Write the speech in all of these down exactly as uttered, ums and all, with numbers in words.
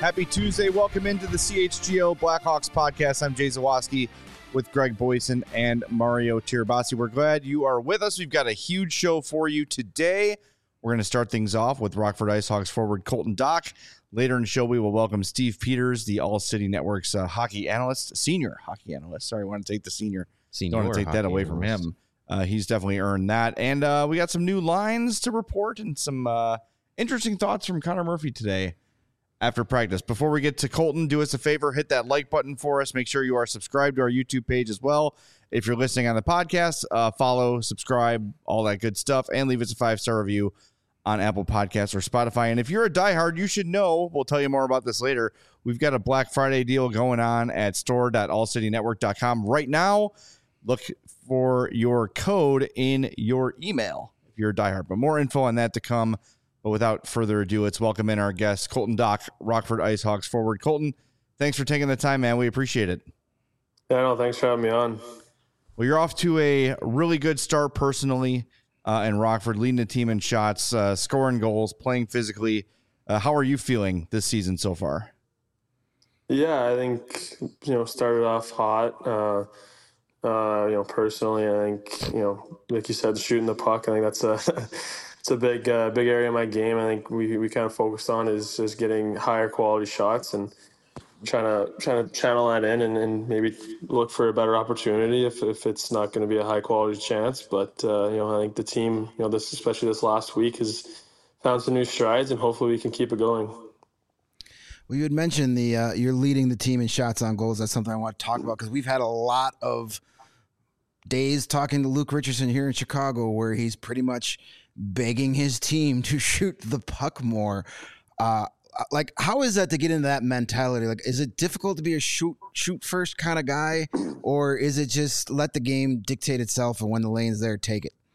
Happy Tuesday. Welcome into the C H G O Blackhawks podcast. I'm Jay Zawaski with Greg Boyson and Mario Tirabassi. We're glad you are with us. We've got a huge show for you today. We're going to start things off with Rockford IceHogs forward Colton Dach. Later in the show, we will welcome Steve Peters, the All City Network's uh, hockey analyst, senior hockey analyst. Sorry, I want to take the senior. Senior Don't want to take that away analyst. from him. Uh, he's definitely earned that. And uh, we got some new lines to report and some uh, interesting thoughts from Connor Murphy today after practice. Before we get to Colton, do us a favor, hit that like button for us. Make sure you are subscribed to our YouTube page as well. If you're listening on the podcast, uh, follow, subscribe, all that good stuff, and leave us a five-star review on Apple Podcasts or Spotify. And if you're a diehard, you should know, we'll tell you more about this later, we've got a Black Friday deal going on at store dot all city network dot com right now. Look for your code in your email if you're a diehard. But more info on that to come. But without further ado, let's welcome in our guest, Colton Dach, Rockford IceHogs forward. Colton, thanks for taking the time, man. We appreciate it. Yeah, no, thanks for having me on. Well, you're off to a really good start personally uh, in Rockford, leading the team in shots, uh, scoring goals, playing physically. Uh, how are you feeling this season so far? Yeah, I think, you know, started off hot. Uh, uh, you know, personally, I think, you know, like you said, shooting the puck, I think that's a it's a big uh, big area of my game. I think we, we kind of focused on is just getting higher quality shots and trying to trying to channel that in and, and maybe look for a better opportunity if, if it's not going to be a high quality chance. But uh, you know, I think the team, you know, this especially this last week has found some new strides, and hopefully we can keep it going. Well, you had mentioned the uh, you're leading the team in shots on goals. That's something I want to talk about because we've had a lot of days talking to Luke Richardson here in Chicago where he's pretty much begging his team to shoot the puck more. Uh, like, how is that to get into that mentality? Like, is it difficult to be a shoot shoot first kind of guy, or is it just let the game dictate itself and when the lane's there, take it?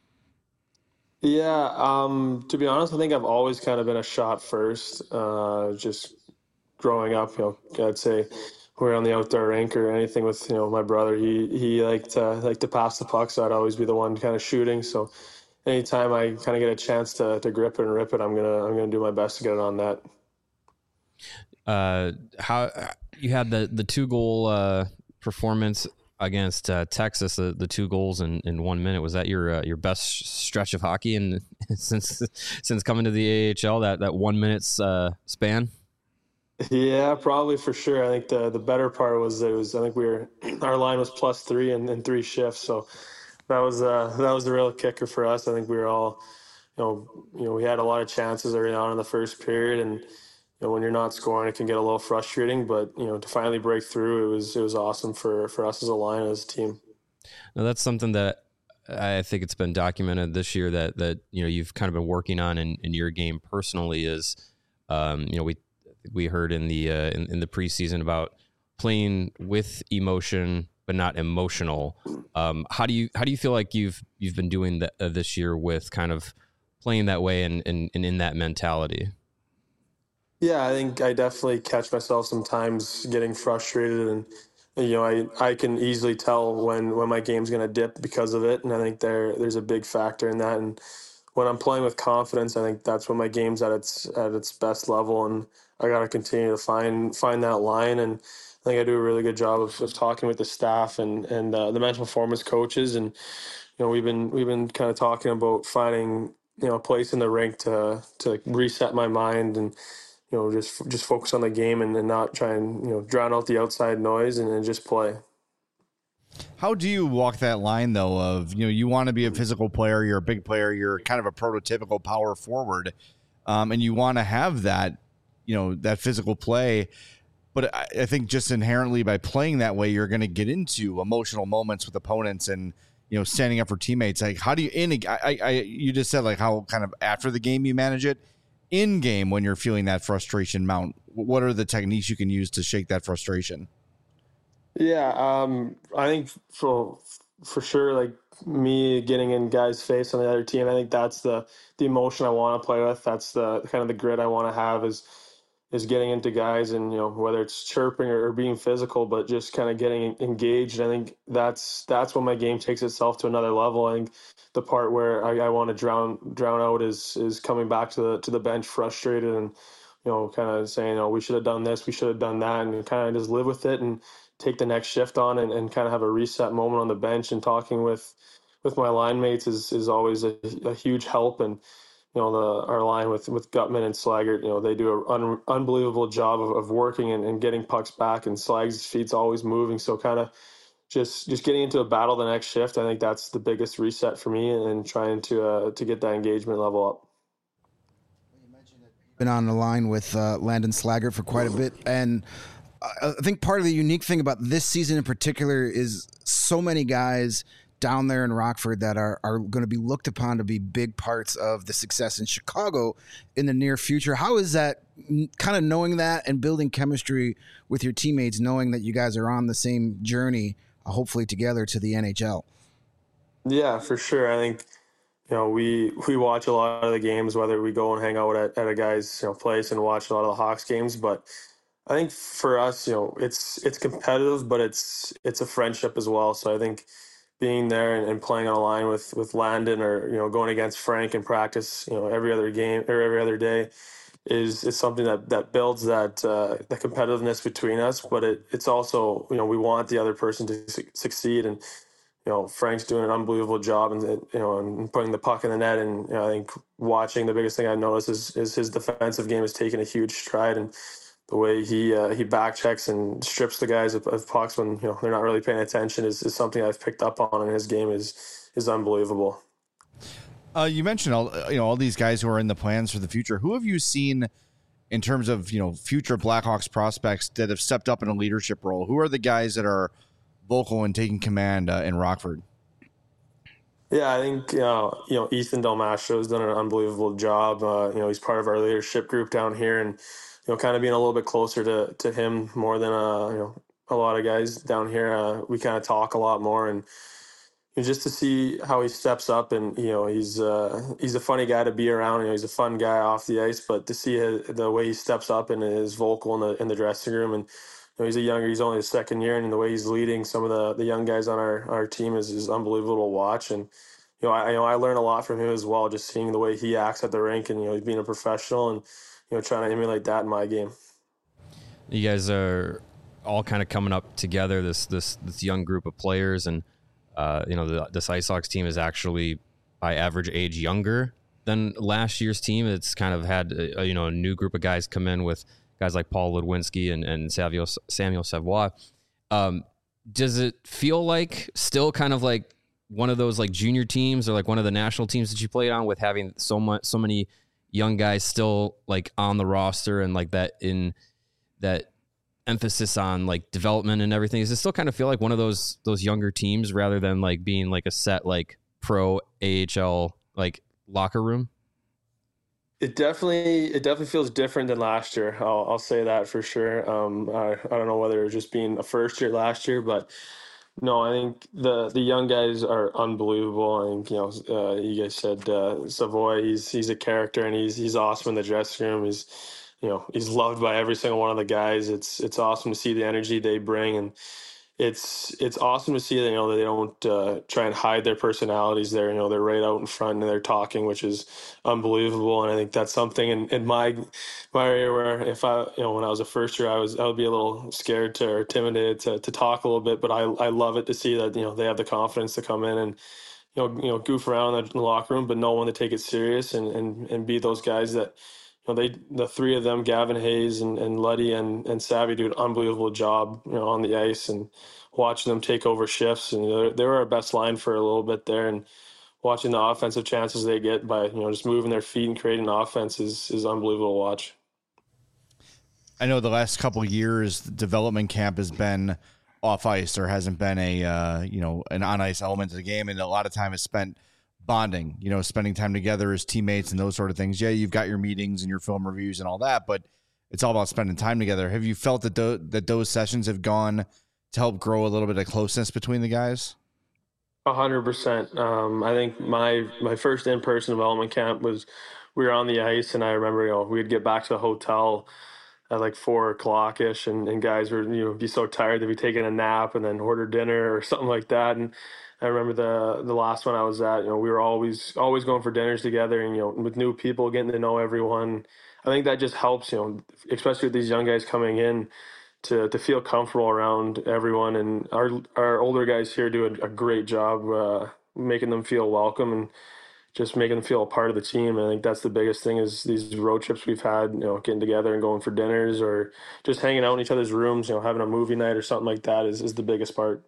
Yeah, um, to be honest, I think I've always kind of been a shot first. Uh, just growing up, you know, I'd say we're on the outdoor rink or anything with, you know, my brother. He he liked to like to pass the puck, so I'd always be the one kind of shooting. So anytime I kind of get a chance to to grip it and rip it, I'm gonna I'm gonna do my best to get it on net. Uh, how you had the the two goal uh, performance against uh, Texas, the, the two goals in, in one minute. Was that your uh, your best stretch of hockey and since since coming to the A H L? That that one minute's uh, span. Yeah, probably for sure. I think the the better part was that it was. I think we were our line was plus three in, in three shifts, so that was uh, that was the real kicker for us. I think we were all, you know, you know, we had a lot of chances early on in the first period, and you know, when you're not scoring, it can get a little frustrating. But you know, to finally break through, it was it was awesome for for us as a line, as a team. Now that's something that I think it's been documented this year that that you know you've kind of been working on in, in your game personally. Is um, you know we. We heard in the uh, in, in the preseason about playing with emotion but not emotional. Um, how do you how do you feel like you've you've been doing that uh, this year with kind of playing that way and, and, and in that mentality? Yeah, I think I definitely catch myself sometimes getting frustrated, and you know I, I can easily tell when, when my game's going to dip because of it, and I think there there's a big factor in that. And when I'm playing with confidence, I think that's when my game's at its at its best level, and I got to continue to find find that line. And I think I do a really good job of, of talking with the staff and and uh, the mental performance coaches. And you know, we've been we've been kind of talking about finding you know a place in the rink to to reset my mind and you know just just focus on the game and, and not try and you know drown out the outside noise and, and just play. How do you walk that line, though, of, you know, you want to be a physical player, you're a big player, you're kind of a prototypical power forward, um, and you want to have that, you know, that physical play. But I, I think just inherently by playing that way, you're going to get into emotional moments with opponents and, you know, standing up for teammates. Like, how do you, in a, I, I, you just said, like, how kind of after the game you manage it. In game, when you're feeling that frustration mount, what are the techniques you can use to shake that frustration? Yeah, um, I think for for sure, like me getting in guys' face on the other team, I think that's the the emotion I want to play with. That's the kind of the grit I want to have is is getting into guys and you know whether it's chirping or, or being physical, but just kind of getting engaged. I think that's that's when my game takes itself to another level. I think the part where I, I want to drown drown out is is coming back to the to the bench frustrated and you know, kind of saying, oh, we should have done this, we should have done that, and kind of just live with it and take the next shift on, and, and kind of have a reset moment on the bench. And talking with with my line mates is is always a, a huge help. And you know, the our line with with Gutman and Slaggert, you know, they do an un, unbelievable job of, of working and, and getting pucks back, and Slag's feet's always moving. So kind of just just getting into a battle the next shift, I think that's the biggest reset for me, and trying to uh, to get that engagement level up. Been on the line with uh, Landon Slaggert for quite a bit, and I think part of the unique thing about this season in particular is so many guys down there in Rockford that are, are going to be looked upon to be big parts of the success in Chicago in the near future. How is that, kind of knowing that and building chemistry with your teammates, knowing that you guys are on the same journey, uh, hopefully together to the N H L? Yeah, for sure. I think, you know, we we watch a lot of the games, whether we go and hang out at, at a guy's, you know, place and watch a lot of the Hawks games. But I think for us, you know, it's it's competitive, but it's it's a friendship as well. So I think being there and, and playing on a line with with Landon, or you know, going against Frank in practice, you know, every other game or every other day, is is something that that builds that uh, the competitiveness between us. But it it's also, you know, we want the other person to su- succeed. And you know, Frank's doing an unbelievable job, and you know, and putting the puck in the net. And you know, I think watching, the biggest thing I've noticed is is his defensive game has taken a huge stride, and the way he uh, he back checks and strips the guys of, of pucks when, you know, they're not really paying attention is, is something I've picked up on in his game is is unbelievable. Uh, you mentioned all you know all these guys who are in the plans for the future. Who have you seen in terms of, you know, future Blackhawks prospects that have stepped up in a leadership role? Who are the guys that are vocal and taking command uh, in Rockford? Yeah, I think uh, you know, Ethan Del Mastro has done an unbelievable job. Uh, you know, he's part of our leadership group down here, and you know, kind of being a little bit closer to to him more than uh, you know, a lot of guys down here. Uh, we kind of talk a lot more, and you know, just to see how he steps up. And you know, he's uh, he's a funny guy to be around. You know, he's a fun guy off the ice, but to see his, the way he steps up and is vocal in the in the dressing room. And you know, he's a younger, he's only his second year, and the way he's leading some of the, the young guys on our, our team is, is unbelievable to watch. And you know, I you know I learn a lot from him as well, just seeing the way he acts at the rink, and you know, he's being a professional, and you know, trying to emulate that in my game. You guys are all kind of coming up together, this this this young group of players, and uh, you know, the, this Ice Hawks team is actually by average age younger than last year's team. It's kind of had a, you know, a new group of guys come in with guys like Paul Ludwinski and, and Samuel, Samuel Savoie. Um, does it feel like still kind of like one of those like junior teams or like one of the national teams that you played on, with having so much, so many young guys still like on the roster, and like that in that emphasis on like development and everything? Does it still kind of feel like one of those, those younger teams rather than like being like a set, like pro A H L, like locker room? It definitely, it definitely feels different than last year. I'll, I'll say that for sure. Um, I, I don't know whether it was just being a first year last year, but no, I think the the young guys are unbelievable. I think, you know, uh, you guys said uh, Savoie, he's he's a character, and he's he's awesome in the dressing room. He's, you know, he's loved by every single one of the guys. It's it's awesome to see the energy they bring, and it's it's awesome to see that, you know, that they don't uh, try and hide their personalities there. You know, they're right out in front and they're talking, which is unbelievable. And I think that's something in, in my my area where, if I, you know, when I was a first year, I was I would be a little scared to or intimidated to to talk a little bit. But I I love it to see that, you know, they have the confidence to come in and, you know, you know, goof around in the locker room, but know when to take it serious, and and and be those guys that, you know, they, the three of them, Gavin Hayes and, and Luddy and, and Savvy, do an unbelievable job, you know, on the ice, and watching them take over shifts. And they they were our best line for a little bit there, and watching the offensive chances they get by, you know, just moving their feet and creating offense is, is unbelievable to watch. I know the last couple of years, the development camp has been off ice. There hasn't been a, uh, you know, an on ice element to the game. And a lot of time is spent bonding, you know, spending time together as teammates and those sort of things. Yeah, you've got your meetings and your film reviews and all that, but it's all about spending time together. Have you felt that th- that those sessions have gone to help grow a little bit of closeness between the guys? A hundred percent. Um, I think my my first in person development camp was, we were on the ice, and I remember, you know, we'd get back to the hotel at like four o'clock ish, and, and guys were, you know, be so tired they'd be taking a nap and then order dinner or something like that. And I remember the the last one I was at, you know, we were always always going for dinners together, and you know, with new people, getting to know everyone. I think that just helps, you know, especially with these young guys coming in, to to feel comfortable around everyone. And our our older guys here do a, a great job uh, making them feel welcome and just making them feel a part of the team. And I think that's the biggest thing is these road trips we've had, you know, getting together and going for dinners or just hanging out in each other's rooms, you know, having a movie night or something like that is, is the biggest part.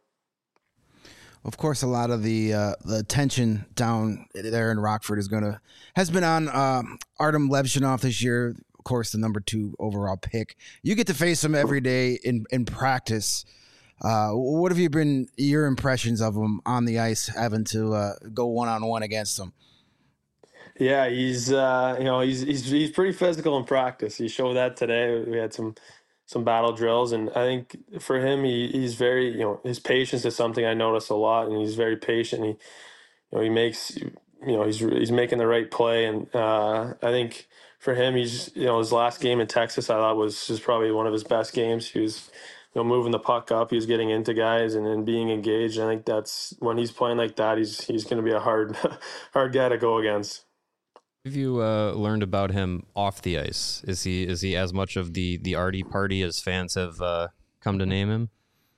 Of course, a lot of the uh, the tension down there in Rockford is going to has been on uh, Artem Levshinov this year. Of course, the number two overall pick. You get to face him every day in in practice. Uh, what have you been your impressions of him on the ice, having to uh, go one on one against him? Yeah, he's uh, you know he's he's he's pretty physical in practice. He showed that today. We had some. some battle drills, and I think for him, he, he's very, you know, his patience is something I notice a lot, and he's very patient. He, you know, he makes, you know, he's he's making the right play, and uh, I think for him, he's, you know, his last game in Texas, I thought was was probably one of his best games. He was, you know, moving the puck up, he was getting into guys and then being engaged. I think that's when he's playing like that, he's he's going to be a hard hard guy to go against. Have you uh, learned about him off the ice? Is he is he as much of the the arty party as fans have uh, come to name him?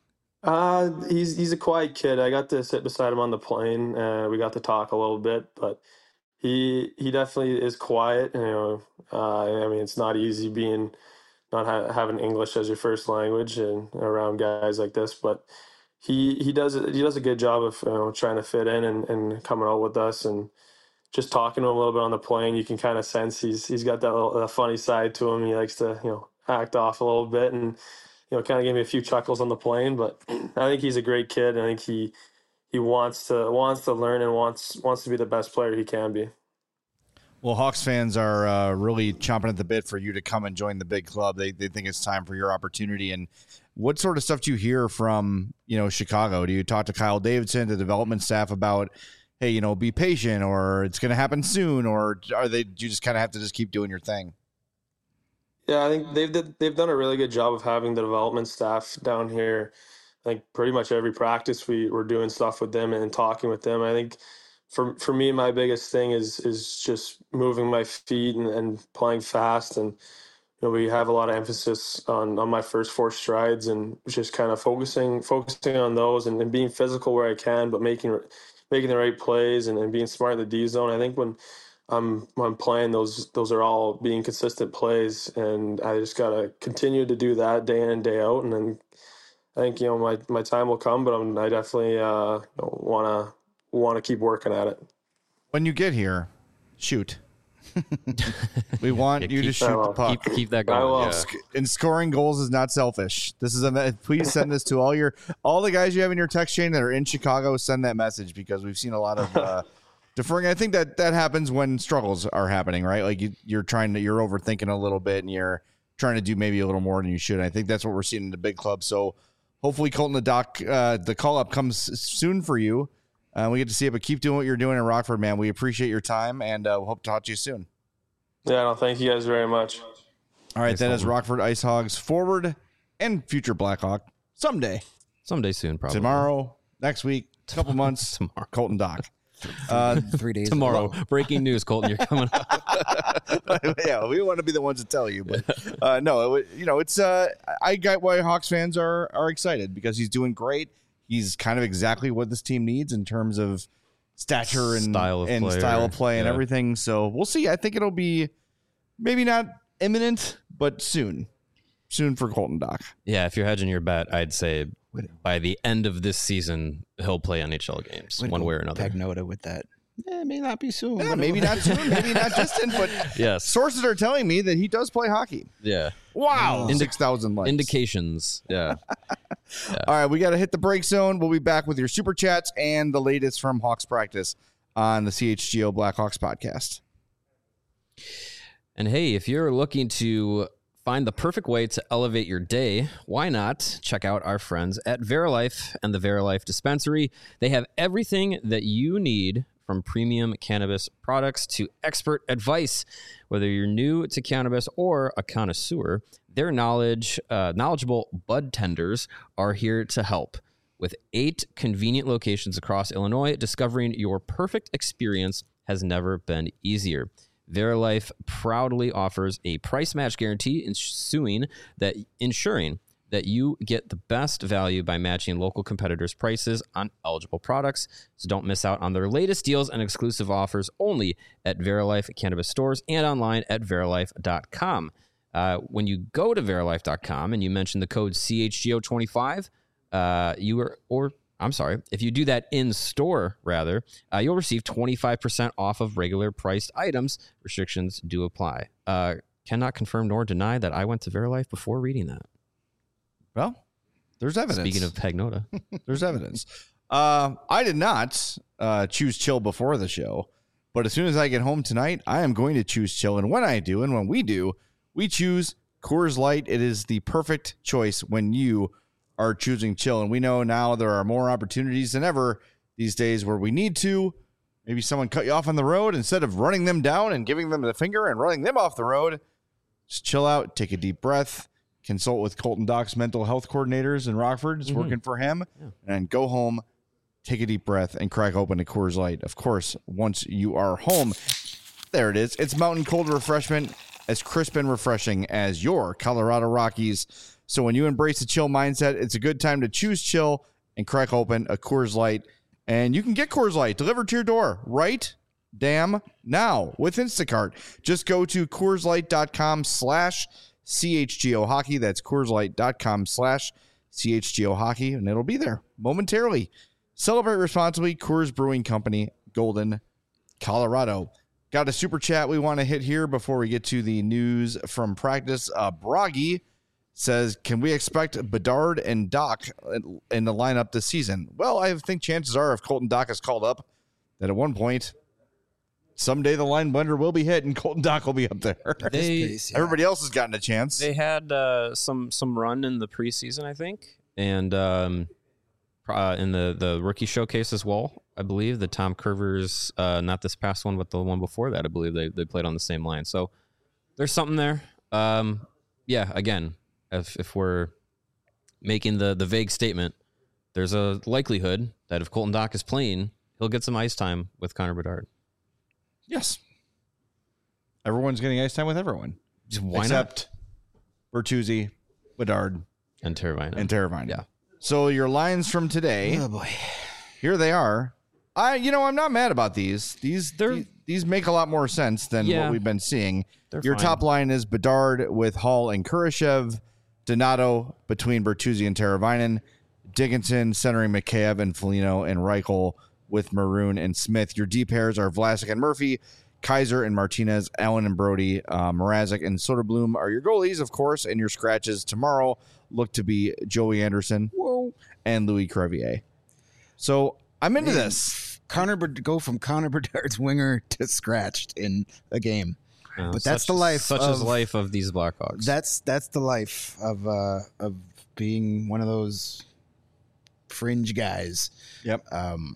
Uh, he's he's a quiet kid. I got to sit beside him on the plane. Uh, we got to talk a little bit, but he he definitely is quiet. You know, uh, I mean, it's not easy being not ha- having English as your first language and around guys like this, but he he does he does a good job of, you know, trying to fit in and, and coming out with us. And just talking to him a little bit on the plane, you can kind of sense he's he's got that little that funny side to him. He likes to, you know, act off a little bit, and, you know, kind of gave me a few chuckles on the plane. But I think he's a great kid. I think he he wants to wants to learn and wants wants to be the best player he can be. Well, Hawks fans are uh, really chomping at the bit for you to come and join the big club. They they think it's time for your opportunity. And what sort of stuff do you hear from, you know, Chicago? Do you talk to Kyle Davidson, the development staff, about, hey, you know, be patient, or it's going to happen soon, or are they, do you just kind of have to just keep doing your thing? Yeah, I think they've did, they've done a really good job of having the development staff down here. I think pretty much every practice we were doing stuff with them and talking with them. I think for for me, my biggest thing is is just moving my feet and, and playing fast. And, you know, we have a lot of emphasis on, on my first four strides and just kind of focusing focusing on those and, and being physical where I can, but making making the right plays and, and being smart in the D zone. I think when I'm when I'm playing, those those are all being consistent plays, and I just gotta continue to do that day in and day out. And then I think, you know, my, my time will come, but I'm, I definitely uh, want to want to keep working at it. When you get here, shoot. We want Yeah, you keep- to shoot the puck. Keep keep that I going. will. Yeah. And scoring goals is not selfish. This is a please send this to all your all the guys you have in your text chain that are in Chicago. Send that message, because we've seen a lot of uh, deferring. I think that that happens when struggles are happening, right? Like you, you're trying to you're overthinking a little bit, and you're trying to do maybe a little more than you should. I think that's what we're seeing in the big club. So hopefully, Colton, the doc, uh, the call up comes soon for you. Uh, we get to see it, but keep doing what you're doing in Rockford, man. We appreciate your time, and uh, we'll hope to talk to you soon. Yeah, no, thank you guys very much. All right, Thanks, that is Colton. Rockford Ice Hogs forward and future Blackhawk someday, Someday soon, probably. tomorrow, next week, a couple months. Tomorrow. Colton Doc. Uh, Three days Tomorrow. Breaking news, Colton. You're coming up. yeah, we want to be the ones to tell you, but uh, no, it, you know, it's uh, I got why Hawks fans are are excited, because he's doing great. He's kind of exactly what this team needs in terms of stature and Style of and player. style of play and Yeah. everything. So we'll see. I think it'll be maybe not imminent, but soon, soon for Colton Doc. Yeah, if you're hedging your bet, I'd say by the end of this season, he'll play N H L games, one way or another. Pagnota with that. Eh, it may not be soon. Yeah, but maybe not soon, maybe not distant, but Yes. sources are telling me that he does play hockey. Yeah. Wow, Indi- six thousand likes. Indications. Yeah. All right, we got to hit the break zone. We'll be back with your super chats and the latest from Hawks practice on the C H G O Blackhawks podcast. And hey, if you're looking to find the perfect way to elevate your day, why not check out our friends at Verilife and the Verilife Dispensary. They have everything that you need, from premium cannabis products to expert advice. Whether you're new to cannabis or a connoisseur, their knowledge, uh, knowledgeable bud tenders are here to help. With eight convenient locations across Illinois, discovering your perfect experience has never been easier. Verilife proudly offers a price match guarantee, ensuing that ensuring that you get the best value by matching local competitors' prices on eligible products. So don't miss out on their latest deals and exclusive offers only at Verilife Cannabis stores and online at verilife dot com. Uh, when you go to verilife dot com and you mention the code C H G O twenty-five, uh, you are, or I'm sorry, if you do that in store, rather, uh, you'll receive twenty-five percent off of regular priced items. Restrictions do apply. Uh, cannot confirm nor deny that I went to Verilife before reading that. Well, there's evidence. Speaking of Pagnota, there's evidence. Uh, I did not uh, choose chill before the show, but as soon as I get home tonight, I am going to choose chill. And when I do, and when we do, we choose Coors Light. It is the perfect choice when you are choosing chill. And we know now there are more opportunities than ever these days where we need to. Maybe someone cut you off on the road. Instead of running them down and giving them the finger and running them off the road, just chill out, take a deep breath. Consult with Colton Doc's mental health coordinators in Rockford. It's mm-hmm. working for him. Yeah. And go home, take a deep breath, and crack open a Coors Light. Of course, once you are home, there it is. It's mountain cold refreshment, as crisp and refreshing as your Colorado Rockies. So when you embrace a chill mindset, it's a good time to choose chill and crack open a Coors Light. And you can get Coors Light delivered to your door right damn now with Instacart. Just go to CoorsLight.com slash CHGO Hockey. That's CoorsLight.com slash CHGO Hockey, and it'll be there momentarily. Celebrate responsibly. Coors Brewing Company, Golden, Colorado. Got a super chat we want to hit here before we get to the news from practice. Uh, Broggy says, can we expect Bedard and Doc in the lineup this season? Well, I think chances are if Colton Doc is called up, that at one point, someday the line blender will be hit and Colton Doc will be up there. They, pace, yeah. Everybody else has gotten a chance. They had uh, some some run in the preseason, I think, and um, uh, in the, the rookie showcase as well, I believe. The Tom Curvers, uh, not this past one, but the one before that, I believe they, they played on the same line. So there's something there. Um, yeah, again, if, if we're making the, the vague statement, there's a likelihood that if Colton Doc is playing, he'll get some ice time with Connor Bedard. Yes. Everyone's getting ice time with everyone. Why Except not? Bertuzzi, Bedard, and Teravainen. And Teravainen. Yeah. So your lines from today. Oh boy. Here they are. I you know, I'm not mad about these. These these, these make a lot more sense than yeah, what we've been seeing. Your fine. top line is Bedard with Hall and Kurashev, Donato between Bertuzzi and Teravainen, Dickinson centering Mikheyev and Foligno, and Reichel with Maroon and Smith. Your D pairs are Vlasic and Murphy, Kaiser and Martinez, Allen and Brody, uh, Mrazek and Soderblom are your goalies, of course, and your scratches tomorrow look to be Joey Anderson whoa, and Louis Crevier. So I'm into Man, this. Connor go from Connor Bedard's winger to scratched in a game. Uh, but that's such, the life. Such of, is life of these Blackhawks. That's that's the life of uh, of being one of those fringe guys. Yep. Um,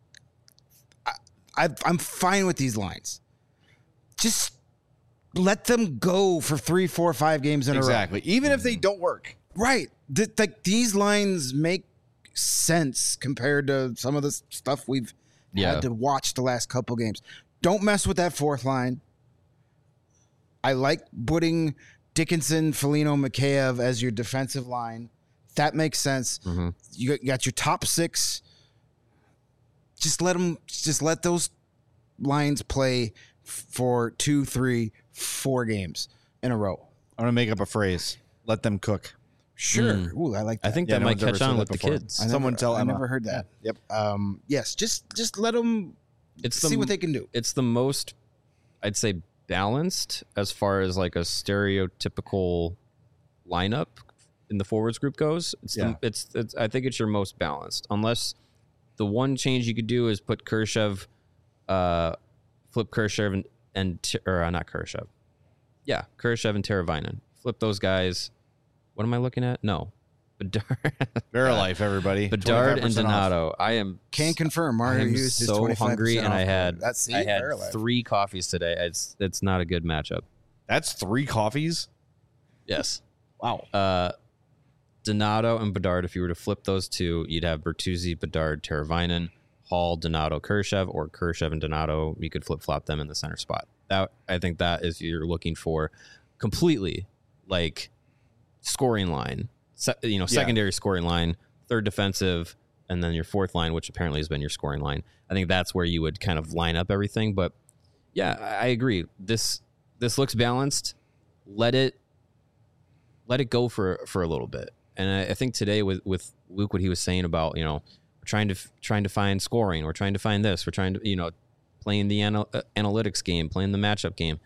I, I'm fine with these lines. Just let them go for three, four, five games in exactly. a row. Even if they don't work. Right. Th- like these lines make sense compared to some of the stuff we've yeah. had to watch the last couple games. Don't mess with that fourth line. I like putting Dickinson, Foligno, Mikheyev as your defensive line. That makes sense. Mm-hmm. You got your top six. Just let them. Just let those lines play for two, three, four games in a row. I'm gonna make up a phrase. Let them cook. Sure. Mm. Ooh, I like that. I think yeah, that no might catch on with before. the kids. I Someone never, tell I Emma. never heard that. Yep. Um, yes. Just just let them it's see the, what they can do. It's the most, I'd say, balanced as far as like a stereotypical lineup in the forwards group goes. It's, yeah. the, it's it's I think it's your most balanced, unless the one change you could do is put Kurashev, uh, flip Kurashev and, and or uh, not Kurashev. Yeah, Kurashev and Teravainen. Flip those guys. What am I looking at? No. Bedard. Verilife, everybody. Bedard and Donato. Off. I am can confirm. I Mario am used so hungry, and I had That's I had Verilife. three coffees today. It's it's not a good matchup. That's three coffees. Yes. Wow. Uh, Donato and Bedard. If you were to flip those two, you'd have Bertuzzi, Bedard, Teravainen, Hall, Donato, Kurashev, or Kurashev and Donato. You could flip flop them in the center spot. That I think that is you're looking for completely like scoring line, se- you know, secondary yeah. scoring line, third defensive, and then your fourth line, which apparently has been your scoring line. I think that's where you would kind of line up everything. But yeah, I agree. This this looks balanced. Let it let it go for for a little bit. And I, I think today with with Luke, what he was saying about, you know, we're trying to trying to find scoring, we're trying to find this, we're trying to, you know, playing the anal- uh, analytics game, playing the matchup game.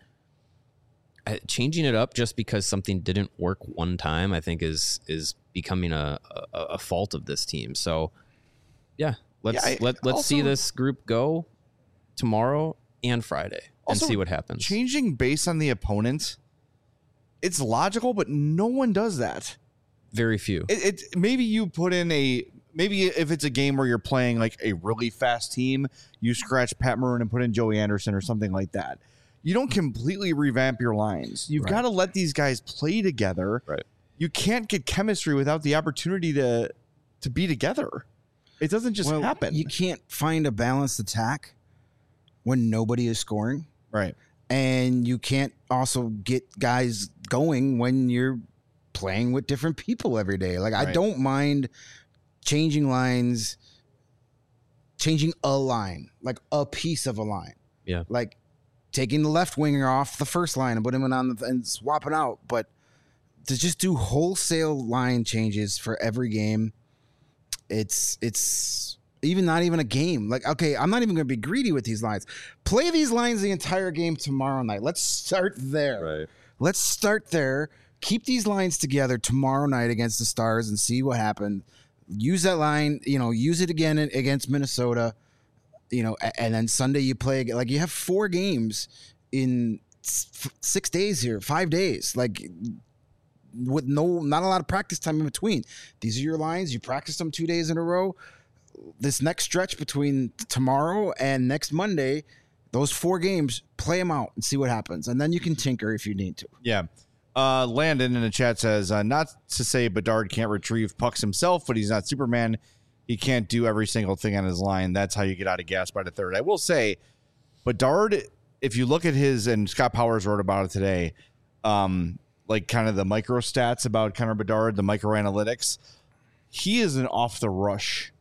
Uh, changing it up just because something didn't work one time, I think is is becoming a a, a fault of this team. So yeah, let's yeah, I, let let's also, see this group go tomorrow and Friday and see what happens. Changing based on the opponent, it's logical, but no one does that. Very few. It, it maybe you put in a maybe if it's a game where you're playing like a really fast team, you scratch Pat Maroon and put in Joey Anderson or something like that. You don't completely revamp your lines. You've right. got to let these guys play together. Right. You can't get chemistry without the opportunity to to be together. It doesn't just well, happen. You can't find a balanced attack when nobody is scoring. Right. And you can't also get guys going when you're playing with different people every day. Like right. I don't mind changing lines, changing a line, like a piece of a line. Yeah. Like taking the left winger off the first line and putting him on the, and swapping out. But to just do wholesale line changes for every game, it's it's even not even a game. Like, okay, I'm not even going to be greedy with these lines. Play these lines the entire game tomorrow night. Let's start there. Right. Let's start there. Keep these lines together tomorrow night against the Stars and see what happens. Use that line, you know, use it again against Minnesota. You know, and then Sunday you play, like you have four games in six days here, five days, like with no, not a lot of practice time in between. These are your lines. You practice them two days in a row. This next stretch between tomorrow and next Monday, those four games, play them out and see what happens. And then you can tinker if you need to. Yeah. Uh, Landon in the chat says, uh, not to say Bedard can't retrieve pucks himself, but he's not Superman. He can't do every single thing on his line. That's how you get out of gas by the third. I will say, Bedard, if you look at his, and Scott Powers wrote about it today, um, like kind of the micro stats about Connor Bedard, the micro analytics, he is an off the rush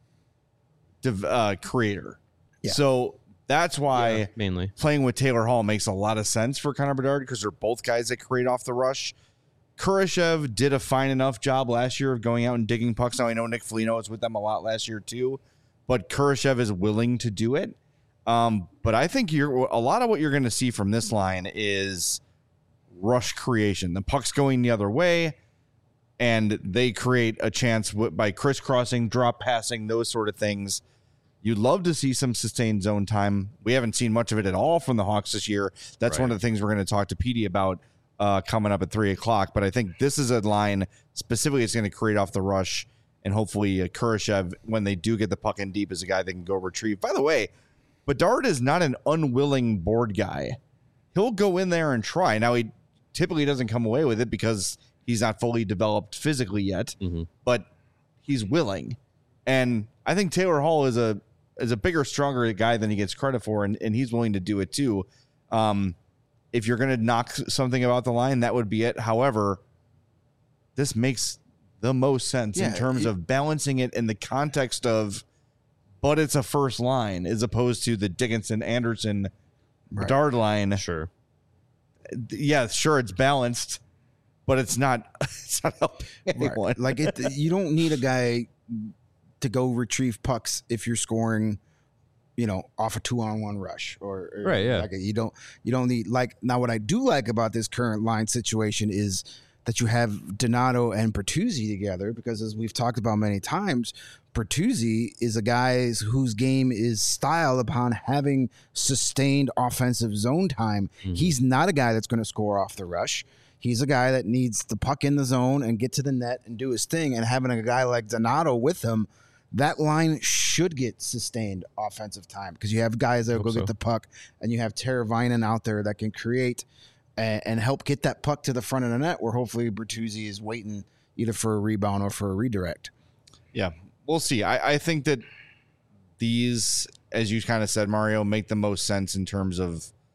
uh, creator. Yeah. So that's why yeah, mainly playing with Taylor Hall makes a lot of sense for Connor Bedard because they're both guys that create off the rush. Kurashev did a fine enough job last year of going out and digging pucks. Now I know Nick Foligno was with them a lot last year too, but Kurashev is willing to do it. Um, but I think you're a lot of what you're going to see from this line is rush creation. The puck's going the other way, and they create a chance w- by crisscrossing, drop passing, those sort of things. You'd love to see some sustained zone time. We haven't seen much of it at all from the Hawks this year. That's right. One of the things we're going to talk to Petey about uh, coming up at three o'clock. But I think this is a line specifically that's going to create off the rush, and hopefully uh, Kurashev, when they do get the puck in deep, is a guy that can go retrieve. By the way, Bedard is not an unwilling board guy. He'll go in there and try. Now, he typically doesn't come away with it because he's not fully developed physically yet, mm-hmm. but he's willing. And I think Taylor Hall is a is a bigger, stronger guy than he gets credit for, and, and he's willing to do it too. Um, if you're going to knock something about the line, that would be it. However, this makes the most sense yeah, in terms it, of balancing it in the context of, but it's a first line as opposed to the Dickinson, Anderson, right. Bedard line. Sure. Yeah, sure, it's balanced, but it's not, it's not helping anyone. Right. Like, it, you don't need a guy to go retrieve pucks if you're scoring, you know, off a two-on-one rush or, or right. Yeah, like a, you don't you don't need like now. What I do like about this current line situation is that you have Donato and Bertuzzi together, because as we've talked about many times, Bertuzzi is a guy whose game is styled upon having sustained offensive zone time. Mm-hmm. He's not a guy that's going to score off the rush. He's a guy that needs the puck in the zone and get to the net and do his thing. And having a guy like Donato with him, that line should get sustained offensive time because you have guys that will go so. get the puck, and you have Teravainen out there that can create and, and help get that puck to the front of the net, where hopefully Bertuzzi is waiting either for a rebound or for a redirect. Yeah, we'll see. I, I think that these, as you kind of said, Mario, make the most sense in terms of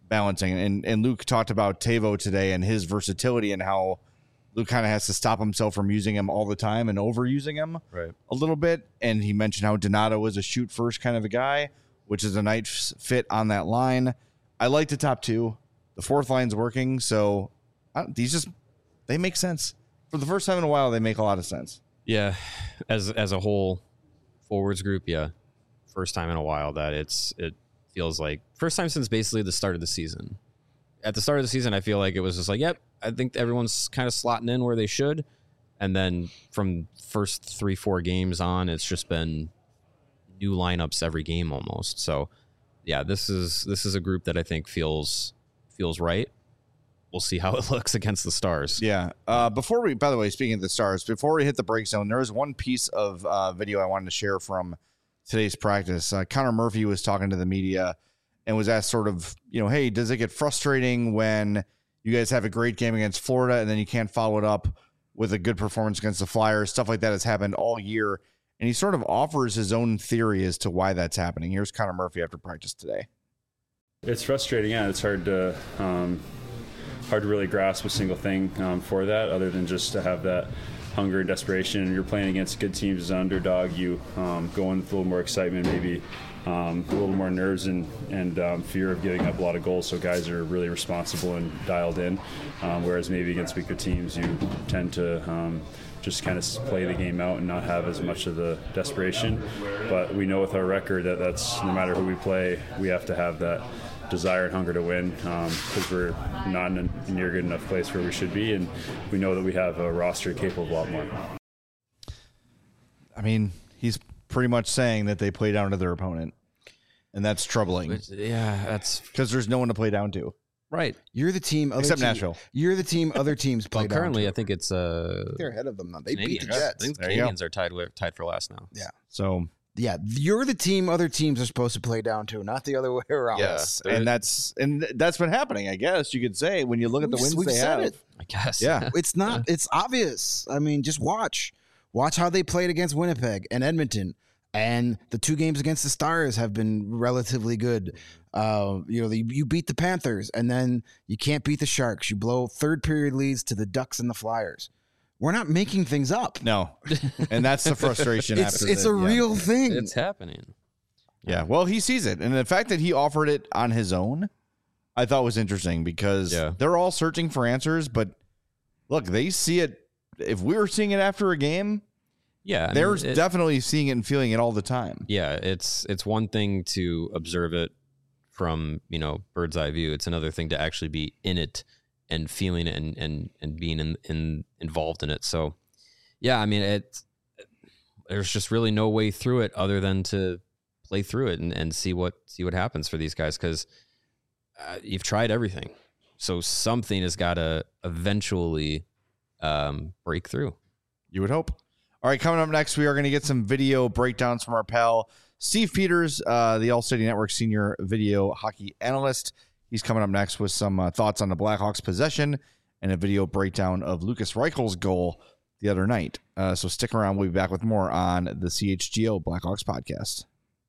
balancing. And and Luke talked about Tavo today and his versatility and how Luke kind of has to stop himself from using him all the time and overusing him right. a little bit. And he mentioned how Donato is a shoot first kind of a guy, which is a nice fit on that line. I like the top two. The fourth line's working, so I don't, these just they make sense. For the first time in a while, they make a lot of sense. Yeah, as as a whole forwards group, yeah, first time in a while that it's it feels like first time since basically the start of the season. At the start of the season, I feel like it was just like, yep, I think everyone's kind of slotting in where they should, and then from first three four games on, it's just been new lineups every game almost. So yeah, this is this is a group that I think feels feels right. We'll see how it looks against the Stars. Yeah. Uh, before we, by the way, speaking of the Stars, before we hit the break zone, there was one piece of uh, video I wanted to share from today's practice. Uh, Connor Murphy was talking to the media and was asked sort of, you know, hey, does it get frustrating when you guys have a great game against Florida and then you can't follow it up with a good performance against the Flyers? Stuff like that has happened all year. And he sort of offers his own theory as to why that's happening. Here's Connor Murphy after practice today. It's frustrating. Yeah, it's hard to um, hard to really grasp a single thing um, for that, other than just to have that hunger and desperation. And you're playing against good teams as an underdog. You um, go in with a little more excitement, maybe um, a little more nerves and and um, fear of giving up a lot of goals. So guys are really responsible and dialed in. Um, whereas maybe against weaker teams, you tend to um, just kind of play the game out and not have as much of the desperation. But we know with our record that that's no matter who we play, we have to have that desire and hunger to win, because um, we're not in a near good enough place where we should be, and we know that we have a roster capable of a lot more. I mean, he's pretty much saying that they play down to their opponent, and that's troubling. Which, yeah, that's because there's no one to play down to. right. You're the team. Other Except team, Nashville. You're the team. Other teams play Well, down currently, to. I think it's uh, They're ahead of them now. They beat the Canadians. Jets. I think the There you go. Canadians are tied with, tied for last now. Yeah. So Yeah, you're the team other teams are supposed to play down to, not the other way around. yes, and that's and that's been happening. I guess you could say when you look at the We've- wins we've they said have. it. I guess. Yeah. It's not. It's obvious. I mean, just watch. Watch how they played against Winnipeg and Edmonton. And the two games against the Stars have been relatively good. Uh, you know, you, you beat the Panthers, and then you can't beat the Sharks. You blow third period leads to the Ducks and the Flyers. We're not making things up. No, and that's the frustration. It's after it's the, a yeah. real thing. It's happening. Yeah, well, he sees it, and the fact that he offered it on his own, I thought was interesting because Yeah. they're all searching for answers. But look, they see it. If we were seeing it after a game, Yeah. I they're mean, it- definitely seeing it and feeling it all the time. Yeah, it's it's one thing to observe it from, you know, bird's eye view. It's another thing to actually be in it and feeling it and and, and being in, in involved in it. So yeah, I mean it there's just really no way through it other than to play through it and, and see what see what happens for these guys, because uh, you've tried everything. So something has got to eventually um, break through. You would hope. All right, coming up next, we are going to get some video breakdowns from our pal Steve Peters, uh, the All City Network senior video hockey analyst. He's coming up next with some uh, thoughts on the Blackhawks' possession and a video breakdown of Lucas Reichel's goal the other night. Uh, so stick around. We'll be back with more on the C H G O Blackhawks podcast.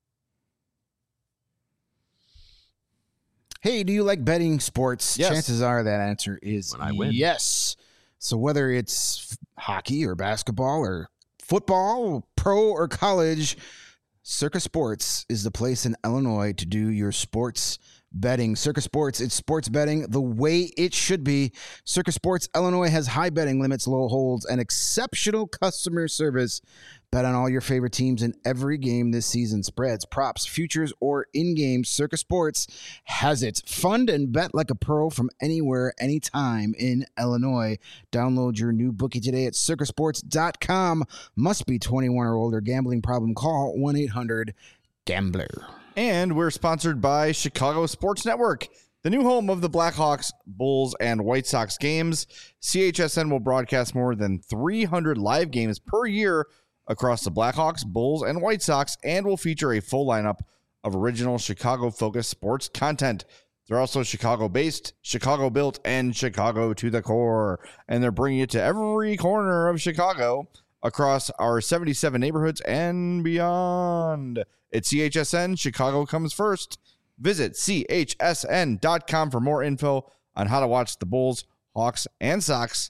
Hey, do you like betting sports? Yes. Chances are that answer is When I win. yes. So whether it's f- hockey or basketball or football, pro or college, Circa Sports is the place in Illinois to do your sports betting. Circa Sports, it's sports betting the way it should be. Circa Sports Illinois has high betting limits, low holds, and exceptional customer service. Bet on all your favorite teams in every game this season. Spreads, props, futures, or in-game. Circa Sports has it. Fund and bet like a pro from anywhere, anytime in Illinois. Download your new bookie today at circa sports dot com. Must be twenty-one or older. Gambling problem? Call one eight hundred gambler. And we're sponsored by Chicago Sports Network, the new home of the Blackhawks, Bulls, and White Sox games. C H S N will broadcast more than three hundred live games per year across the Blackhawks, Bulls, and White Sox, and will feature a full lineup of original Chicago-focused sports content. They're also Chicago-based, Chicago-built, and Chicago to the core. And they're bringing it to every corner of Chicago across our seventy-seven neighborhoods and beyond. At C H S N, Chicago comes first. Visit C H S N dot com for more info on how to watch the Bulls, Hawks, and Sox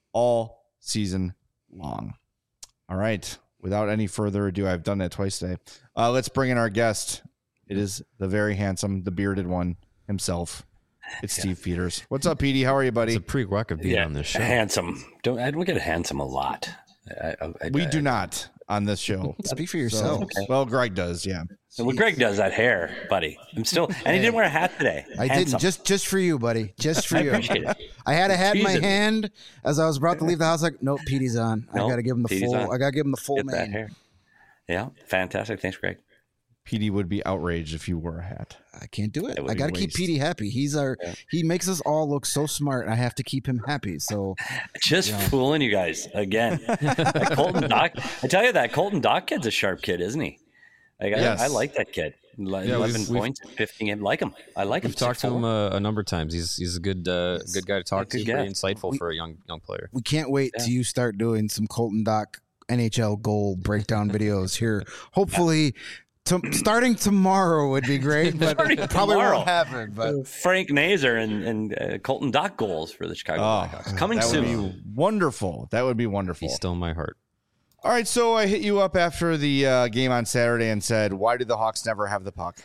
all season long. All right. Without any further ado, I've done that twice today. Uh, let's bring in our guest. It is the very handsome, the bearded one himself. It's yeah. Steve Peters. What's up, Petey? How are you, buddy? It's a prerequisite of being yeah, on this show. Handsome. Don't I don't get handsome a lot. I, I, I, we I, do not on this show. Speak for yourself. So, okay. Well, Greg does, yeah. Well, Greg does that hair, buddy. I'm still, and he didn't wear a hat today. I Handsome. didn't. Just, just for you, buddy. Just for I you. appreciate it. I had a hat Teasing in my me. hand as I was about to leave the house. Like, nope, Petey's on. Nope, I got to give him the Petey's full. on. I got to give him the full Get that mane. hair. Yeah, fantastic. Thanks, Greg. Petey would be outraged if you wore a hat. I can't do it. It would I be got to keep waste. Petey happy. He's our. Yeah. He makes us all look so smart. I have to keep him happy. So Just Yeah. fooling you guys again. That Colton Dock. I tell you that Colton Dock kid's a sharp kid, isn't he? Like, Yes. I, I like that kid. Like, Yeah, Eleven we've- we've- points, fifteen. I like him. I like him. We've talked to him a, a number of times. He's he's a good uh, Yes. good guy to talk Good to. Very guy. insightful We- for a young young player. we can't wait Yeah. till you start doing some Colton Dock N H L goal breakdown videos here. Hopefully, to, starting tomorrow would be great, but Starting it probably tomorrow. won't happen. But Frank Nazer and, and uh, Colton Dock goals for the Chicago Oh, Blackhawks. Coming that soon. would be wonderful. That would be wonderful. He's still in my heart. All right, so I hit you up after the uh, game on Saturday and said, why do the Hawks never have the puck?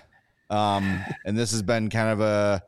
Um, and this has been kind of a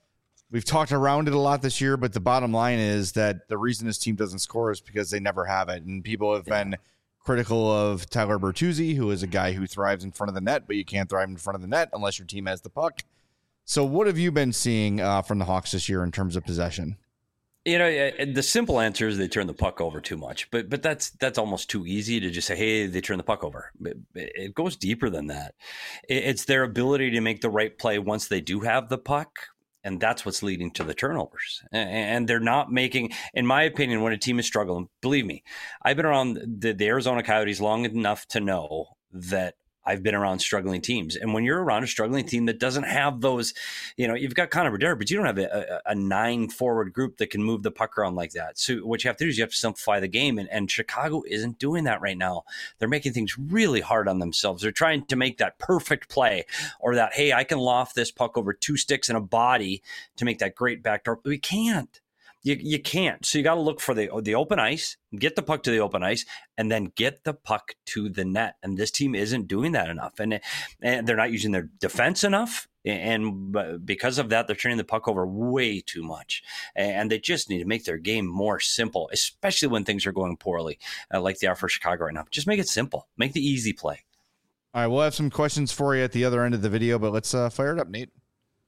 – we've talked around it a lot this year, but the bottom line is that the reason this team doesn't score is because they never have it. And people have been critical of Tyler Bertuzzi, who is a guy who thrives in front of the net, but you can't thrive in front of the net unless your team has the puck. So what have you been seeing uh, from the Hawks this year in terms of possession? You know, uh, the simple answer is they turn the puck over too much, but but that's that's almost too easy to just say, hey, they turn the puck over. But it goes deeper than that. It's their ability to make the right play once they do have the puck, and that's what's leading to the turnovers. And they're not making, in my opinion, when a team is struggling, believe me, I've been around the, the Arizona Coyotes long enough to know that I've been around struggling teams. And when you're around a struggling team that doesn't have those, you know, you've got Connor Bedard, but you don't have a, a, a nine forward group that can move the puck around like that. So what you have to do is you have to simplify the game. And, and Chicago isn't doing that right now. They're making things really hard on themselves. They're trying to make that perfect play or that, hey, I can loft this puck over two sticks and a body to make that great backdoor. But we can't. You you can't. So you got to look for the the open ice, get the puck to the open ice, and then get the puck to the net. And this team isn't doing that enough, and and they're not using their defense enough. And because of that, they're turning the puck over way too much. And they just need to make their game more simple, especially when things are going poorly, uh, like they are for Chicago right now. Just make it simple. Make the easy play. All right, we'll have some questions for you at the other end of the video, but let's uh, fire it up, Nate.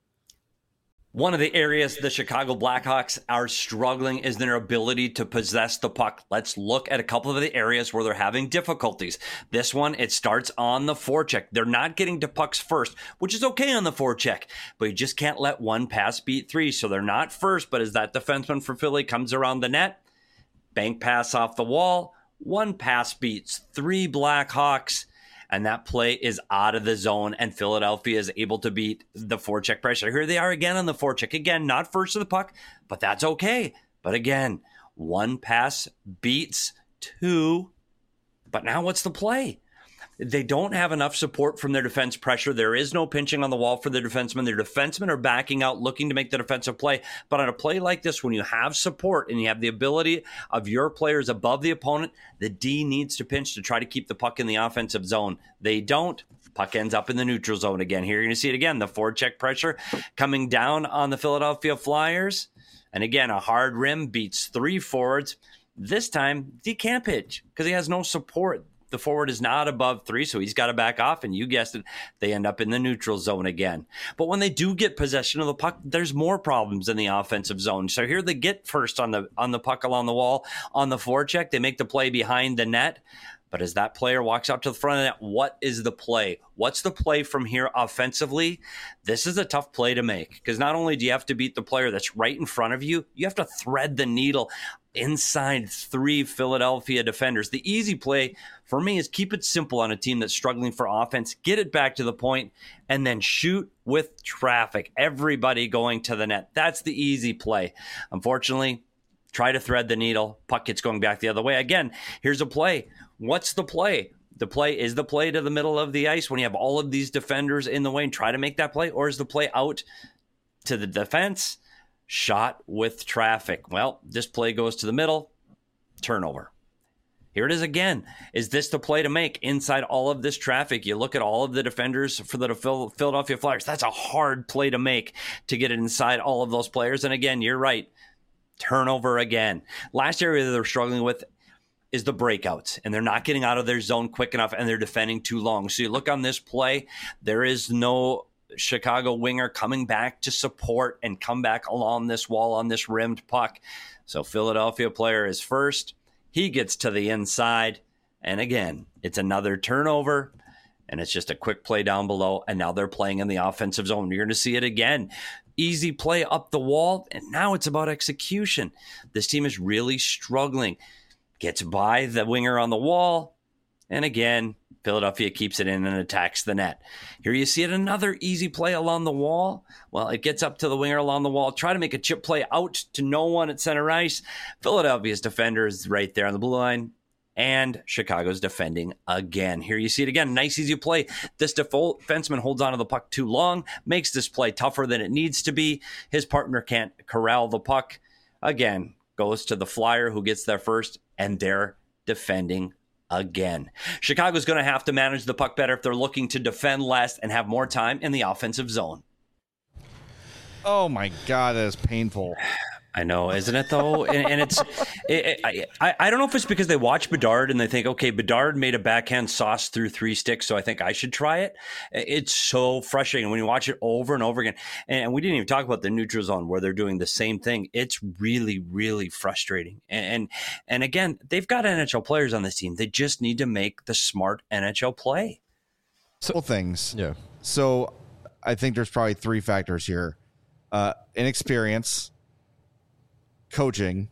One of the areas the Chicago Blackhawks are struggling is their ability to possess the puck. Let's look at a couple of the areas where they're having difficulties. This one, it starts on the forecheck. They're not getting to pucks first, which is okay on the forecheck, but you just can't let one pass beat three. So they're not first, but as that defenseman for Philly comes around the net, bank pass off the wall, one pass beats three Blackhawks. And that play is out of the zone, and Philadelphia is able to beat the forecheck pressure. Here they are again on the forecheck. Again, not first to the puck, but that's okay. But again, one pass beats two. But now what's the play? They don't have enough support from their defense pressure. There is no pinching on the wall for the defensemen. Their defensemen are backing out, looking to make the defensive play. But on a play like this, when you have support and you have the ability of your players above the opponent, the D needs to pinch to try to keep the puck in the offensive zone. They don't. Puck ends up in the neutral zone again. Here you're going to see it again. The forecheck pressure coming down on the Philadelphia Flyers. And again, a hard rim beats three forwards. This time, D can't pitch because he has no support. The forward is not above three, so he's got to back off, and you guessed it, they end up in the neutral zone again. But when they do get possession of the puck, there's more problems in the offensive zone. So here they get first on the on the puck along the wall, on the forecheck. They make the play behind the net. But as that player walks out to the front of the net, what is the play? What's the play from here offensively? This is a tough play to make because not only do you have to beat the player that's right in front of you, you have to thread the needle inside three Philadelphia defenders. The easy play for me is keep it simple on a team that's struggling for offense, get it back to the point, and then shoot with traffic. Everybody going to the net. That's the easy play. Unfortunately, try to thread the needle. Puck gets going back the other way. Again, here's a play. What's the play? The play is the play to the middle of the ice when you have all of these defenders in the way and try to make that play, or is the play out to the defense, shot with traffic? Well, this play goes to the middle, turnover. Here it is again. Is this the play to make inside all of this traffic? You look at all of the defenders for the Philadelphia Flyers. That's a hard play to make to get it inside all of those players. And again, you're right. Turnover again. Last area that they're struggling with is the breakouts, and they're not getting out of their zone quick enough, and they're defending too long. So you look on this play, there is no Chicago winger coming back to support and come back along this wall on this rimmed puck. So Philadelphia player is first. He gets to the inside, and again, it's another turnover, and it's just a quick play down below, and now they're playing in the offensive zone. You're going to see it again. Easy play up the wall, and now it's about execution. This team is really struggling. Gets by the winger on the wall, and again, Philadelphia keeps it in and attacks the net. Here you see it, another easy play along the wall. Well, it gets up to the winger along the wall. Try to make a chip play out to no one at center ice. Philadelphia's defender is right there on the blue line, and Chicago's defending again. Here you see it again. Nice, easy play. This defenseman holds onto the puck too long, makes this play tougher than it needs to be. His partner can't corral the puck. Again, goes to the Flyer who gets there first, and they're defending again. Chicago's going to have to manage the puck better if they're looking to defend less and have more time in the offensive zone. Oh my God, that is painful. I know, isn't it though? And, and it's, it, it, I, I don't know if it's because they watch Bedard and they think, okay, Bedard made a backhand sauce through three sticks, so I think I should try it. It's so frustrating when you watch it over and over again. And we didn't even talk about the neutral zone where they're doing the same thing. It's really, really frustrating. And, and, and again, they've got N H L players on this team. They just need to make the smart N H L play. Couple things. Yeah. So I think there's probably three factors here. Uh, inexperience, coaching,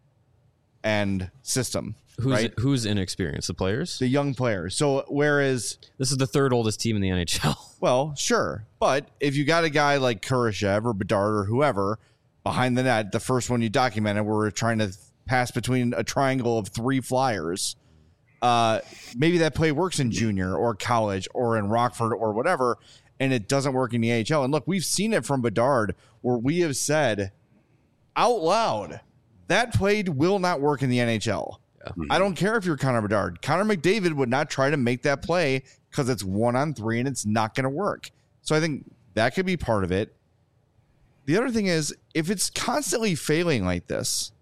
and system. Who's right? who's inexperienced? The players? The young players. So whereas This is the third oldest team in the N H L. Well, sure. But if you got a guy like Kurashev or Bedard or whoever behind the net, the first one you documented where we're trying to pass between a triangle of three Flyers, uh, maybe that play works in junior or college or in Rockford or whatever, and it doesn't work in the A H L. And look, we've seen it from Bedard where we have said out loud, that play will not work in the N H L. Yeah. I don't care if you're Connor Bedard. Connor McDavid would not try to make that play because it's one on three and it's not going to work. So I think that could be part of it. The other thing is, if it's constantly failing like this,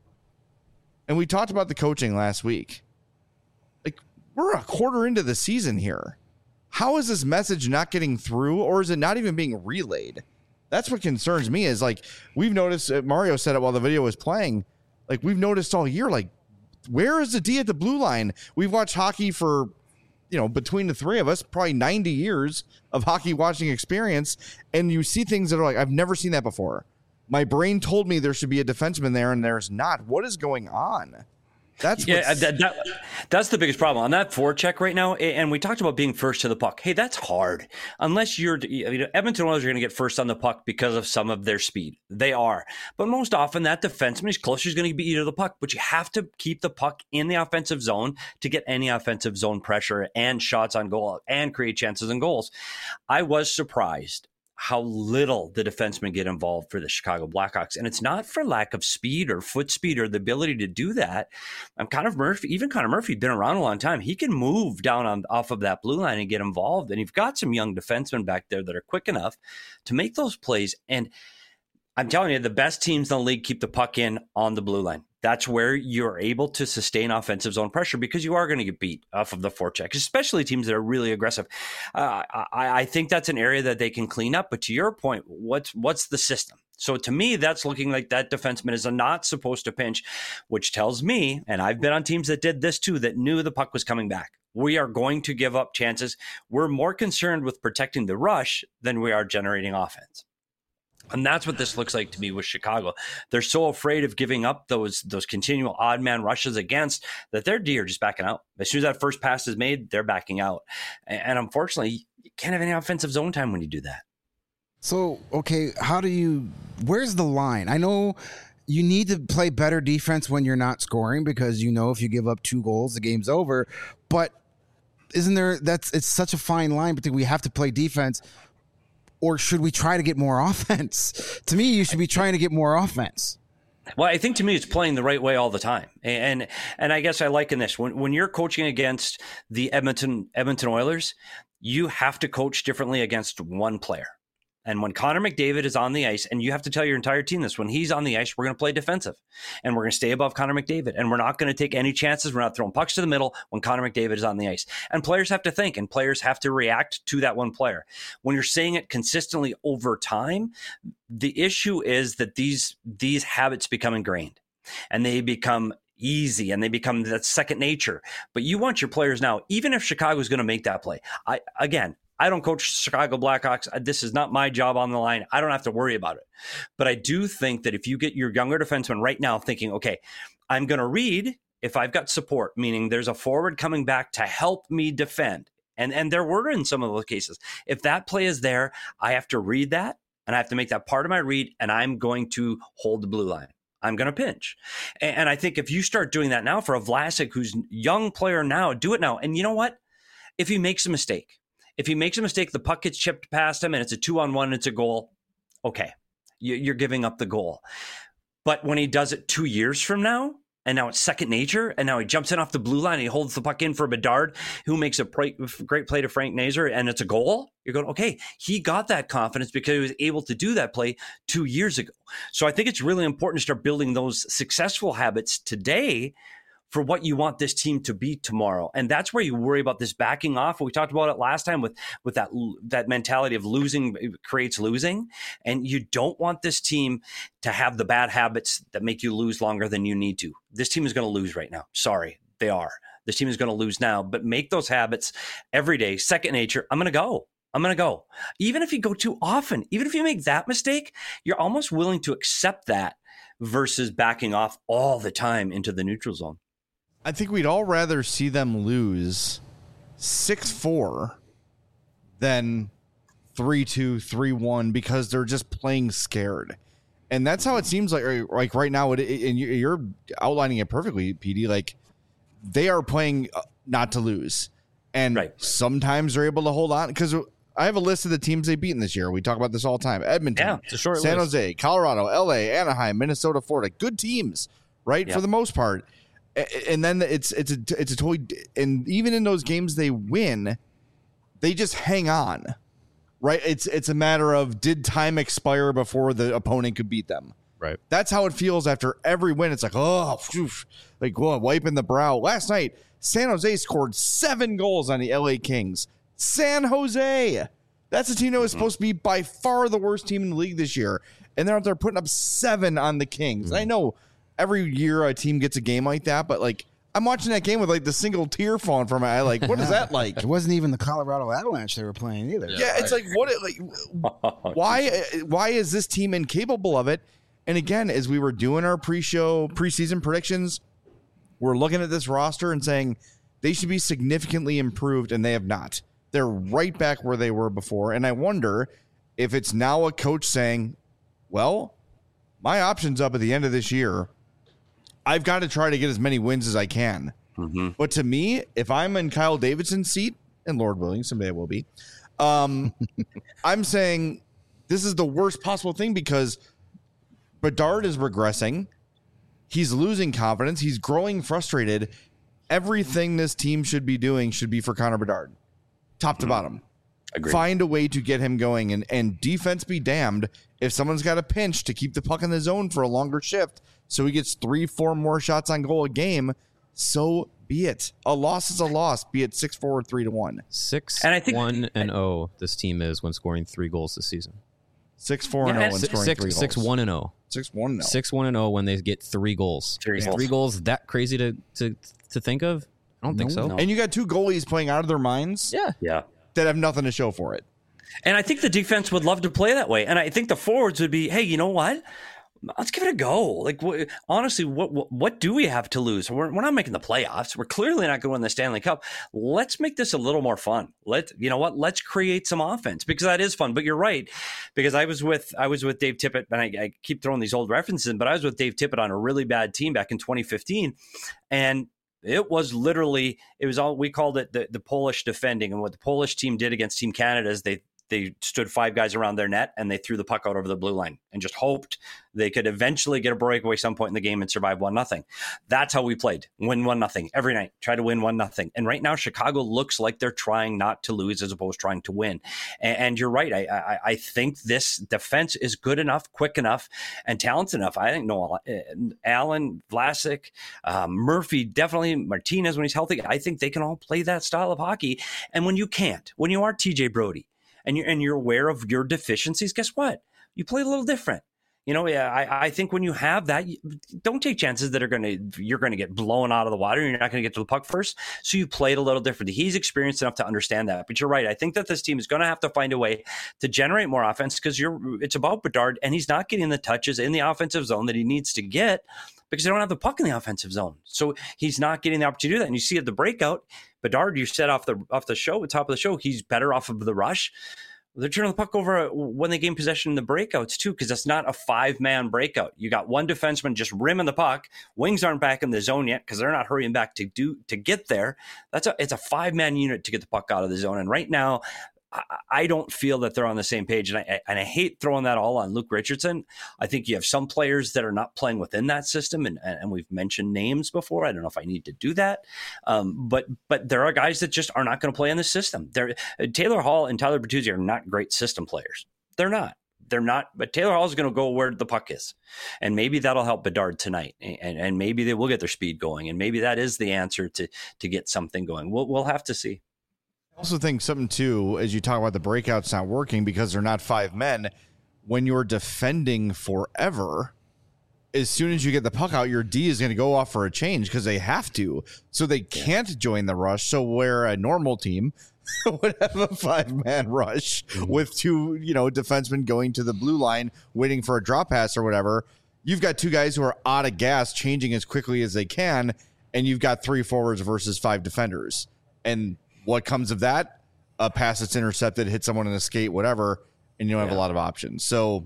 and we talked about the coaching last week, like we're a quarter into the season here. How is this message not getting through, or is it not even being relayed? That's what concerns me is like, we've noticed, uh, Mario said it while the video was playing, like we've noticed all year, like, where is the D at the blue line? We've watched hockey for, you know, between the three of us, probably ninety years of hockey watching experience. And you see things that are like, I've never seen that before. My brain told me there should be a defenseman there and there's not. What is going on? That's yeah, that, that, that's the biggest problem on that forecheck right now. And we talked about being first to the puck. Hey, that's hard. Unless you're, you know, Edmonton Oilers are going to get first on the puck because of some of their speed. They are. But most often that defenseman is closer is going to be you to the puck. But you have to keep the puck in the offensive zone to get any offensive zone pressure and shots on goal and create chances and goals. I was surprised how little the defensemen get involved for the Chicago Blackhawks. And it's not for lack of speed or foot speed or the ability to do that. I'm Connor Murphy, even Connor Murphy, been around a long time. He can move down on off of that blue line and get involved. And you've got some young defensemen back there that are quick enough to make those plays. And I'm telling you, the best teams in the league keep the puck in on the blue line. That's where you're able to sustain offensive zone pressure because you are going to get beat off of the forecheck, especially teams that are really aggressive. Uh, I, I think that's an area that they can clean up. But to your point, what's what's the system? So to me, that's looking like that defenseman is not supposed to pinch, which tells me, and I've been on teams that did this too, that knew the puck was coming back. We are going to give up chances. We're more concerned with protecting the rush than we are generating offense. And that's what this looks like to me with Chicago. They're so afraid of giving up those those continual odd man rushes against that their D are just backing out. As soon as that first pass is made, they're backing out. And unfortunately, you can't have any offensive zone time when you do that. So, okay, how do you, where's the line? I know you need to play better defense when you're not scoring because you know if you give up two goals, the game's over. But isn't there? That's it's such a fine line between we have to play defense, or should we try to get more offense? To me, you should be trying to get more offense. Well, I think to me it's playing the right way all the time. And and I guess I liken this. When when you're coaching against the Edmonton Edmonton Oilers, you have to coach differently against one player. And when Connor McDavid is on the ice, and you have to tell your entire team this, when he's on the ice, we're going to play defensive. And we're going to stay above Connor McDavid. And we're not going to take any chances. We're not throwing pucks to the middle when Connor McDavid is on the ice. And players have to think, and players have to react to that one player. When you're saying it consistently over time, the issue is that these these habits become ingrained. And they become easy, and they become that second nature. But you want your players now, even if Chicago is going to make that play. I again, I don't coach Chicago Blackhawks. This is not my job on the line. I don't have to worry about it. But I do think that if you get your younger defenseman right now thinking, okay, I'm going to read if I've got support, meaning there's a forward coming back to help me defend. And, and there were in some of those cases. If that play is there, I have to read that, and I have to make that part of my read, and I'm going to hold the blue line. I'm going to pinch. And, and I think if you start doing that now for a Vlasic, who's a young player now, do it now. And you know what? If he makes a mistake, If he makes a mistake, the puck gets chipped past him and it's a two on one and it's a goal. Okay, you're giving up the goal. But when he does it two years from now, and now it's second nature, and now he jumps in off the blue line and he holds the puck in for Bedard, who makes a great play to Frank Nazar, and it's a goal, you're going, okay, he got that confidence because he was able to do that play two years ago. So I think it's really important to start building those successful habits today for what you want this team to be tomorrow. And that's where you worry about this backing off. We talked about it last time with, with that, that mentality of losing creates losing. And you don't want this team to have the bad habits that make you lose longer than you need to. This team is going to lose right now. Sorry, they are. This team is going to lose now, but make those habits every day, second nature. I'm going to go. I'm going to go. Even if you go too often, even if you make that mistake, you're almost willing to accept that versus backing off all the time into the neutral zone. I think we'd all rather see them lose six four than three two, three one because they're just playing scared. And that's how it seems like like right now, it, and you're outlining it perfectly, P D. Like, they are playing not to lose. And right. Sometimes they're able to hold on, because I have a list of the teams they've beaten this year. We talk about this all the time. Edmonton, yeah, it's a short San list. Jose, Colorado, L A, Anaheim, Minnesota, Florida. Good teams, right? Yeah. For the most part. And then it's it's a it's a totally, and even in those games they win, they just hang on, right? It's it's a matter of, did time expire before the opponent could beat them? Right. That's how it feels after every win. It's like, oh, phew, like whoa, wiping the brow. Last night, San Jose scored seven goals on the L A Kings. San Jose, that's a team that was mm-hmm. supposed to be by far the worst team in the league this year, and they're out there putting up seven on the Kings. Mm-hmm. I know. Every year a team gets a game like that, but like, I'm watching that game with like the single tear falling from my eye. Like, what is that like? It wasn't even the Colorado Avalanche they were playing either. Yeah, yeah, it's like, what? Like, why? Why is this team incapable of it? And again, as we were doing our pre-show preseason predictions, we're looking at this roster and saying they should be significantly improved, and they have not. They're right back where they were before, and I wonder if it's now a coach saying, "Well, my options up at the end of this year. I've got to try to get as many wins as I can." Mm-hmm. But to me, if I'm in Kyle Davidson's seat, and Lord willing, someday I will be, um, I'm saying this is the worst possible thing, because Bedard is regressing. He's losing confidence. He's growing frustrated. Everything this team should be doing should be for Connor Bedard, top to mm-hmm. bottom. Agreed. Find a way to get him going, and, and defense be damned if someone's got a pinch to keep the puck in the zone for a longer shift so he gets three, four more shots on goal a game. So be it. A loss is a loss, be it six four or three to one. Six and I think one and oh. This team is when scoring three goals this season. Six four and oh when scoring six, three goals. Six one and oh. Six one and oh. Six one and oh when they get three goals. Three is goals. Three goals that crazy to to to think of? I don't no, think so. No. And you got two goalies playing out of their minds. Yeah, yeah. That have nothing to show for it. And I think the defense would love to play that way. And I think the forwards would be, hey, you know what? Let's give it a go. Like, wh- honestly, what, what what do we have to lose? We're, we're not making the playoffs. We're clearly not going to win the Stanley Cup. Let's make this a little more fun. Let you know what? Let's create some offense, because that is fun. But you're right, because I was with I was with Dave Tippett, and I, I keep throwing these old references in, but I was with Dave Tippett on a really bad team back in twenty fifteen, and It was literally, it was all, we called it the, the Polish defending. And what the Polish team did against Team Canada is they they stood five guys around their net and they threw the puck out over the blue line and just hoped they could eventually get a breakaway some point in the game and survive one nothing. That's how we played. Win one nothing every night. Try to win one nothing. And right now, Chicago looks like they're trying not to lose as opposed to trying to win. And, and you're right. I, I I think this defense is good enough, quick enough, and talented enough. I think Noel, uh, Allen, Vlasic, uh, Murphy, definitely Martinez when he's healthy. I think they can all play that style of hockey. And when you can't, when you are T J Brodie, and you're, and you're aware of your deficiencies, guess what? You play a little different. You know, yeah, I, I think when you have that, you, don't take chances that are going to, you're going to get blown out of the water. You're not going to get to the puck first. So you play it a little differently. He's experienced enough to understand that. But you're right. I think that this team is going to have to find a way to generate more offense because you're, it's about Bedard, and he's not getting the touches in the offensive zone that he needs to get because they don't have the puck in the offensive zone. So he's not getting the opportunity to do that. And you see at the breakout, Bedard, you said off the off the show, top of the show, he's better off of the rush. They're turning the puck over when they gain possession in the breakouts too, because that's not a five-man breakout. You got one defenseman just rimming the puck. Wings aren't back in the zone yet because they're not hurrying back to do to get there. That's a it's a five-man unit to get the puck out of the zone. And right now, I don't feel that they're on the same page. And I, and I hate throwing that all on Luke Richardson. I think you have some players that are not playing within that system. And, and we've mentioned names before. I don't know if I need to do that. Um, but but there are guys that just are not going to play in the system. They're, Taylor Hall and Tyler Bertuzzi are not great system players. They're not. They're not. But Taylor Hall is going to go where the puck is. And maybe that'll help Bedard tonight. And, and maybe they will get their speed going. And maybe that is the answer to, to get something going. We'll, we'll have to see. I also think something, too, as you talk about the breakouts not working because they're not five men, when you're defending forever, as soon as you get the puck out, your D is going to go off for a change because they have to. So they can't yeah. join the rush. So where a normal team would have a five-man rush mm-hmm. with two, you know, defensemen going to the blue line, waiting for a drop pass or whatever, you've got two guys who are out of gas, changing as quickly as they can, and you've got three forwards versus five defenders. And what comes of that? A pass that's intercepted, hit someone in a skate, whatever, and you don't yeah. have a lot of options. So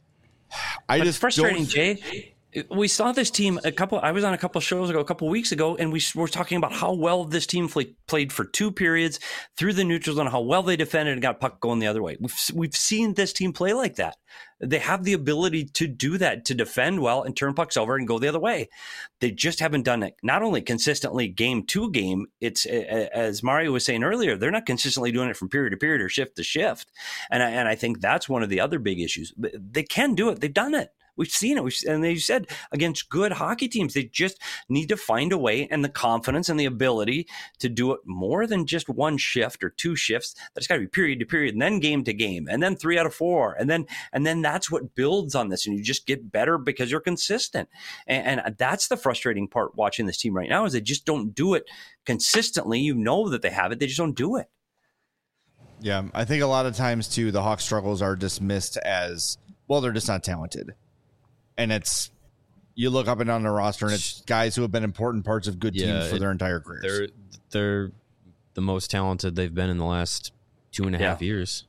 I but just it's frustrating, don't... Jay. We saw this team a couple. I was on a couple shows ago, a couple weeks ago, and we were talking about how well this team play, played for two periods through the neutral zone, how well they defended and got puck going the other way. We've we've seen this team play like that. They have the ability to do that, to defend well and turn pucks over and go the other way. They just haven't done it. Not only consistently game to game, it's as Mario was saying earlier, they're not consistently doing it from period to period or shift to shift. And I, and I think that's one of the other big issues. They can do it. They've done it. We've seen it. We've, and they said against good hockey teams, they just need to find a way and the confidence and the ability to do it more than just one shift or two shifts. That's got to be period to period and then game to game and then three out of four. And then and then that's what builds on this. And you just get better because you're consistent. And, and that's the frustrating part watching this team right now is they just don't do it consistently. You know that they have it. They just don't do it. Yeah, I think a lot of times, too, the Hawks' struggles are dismissed as, well, they're just not talented. And it's, you look up and down the roster, and it's guys who have been important parts of good yeah, teams for it, their entire careers. They're they're the most talented they've been in the last two and a yeah. half years.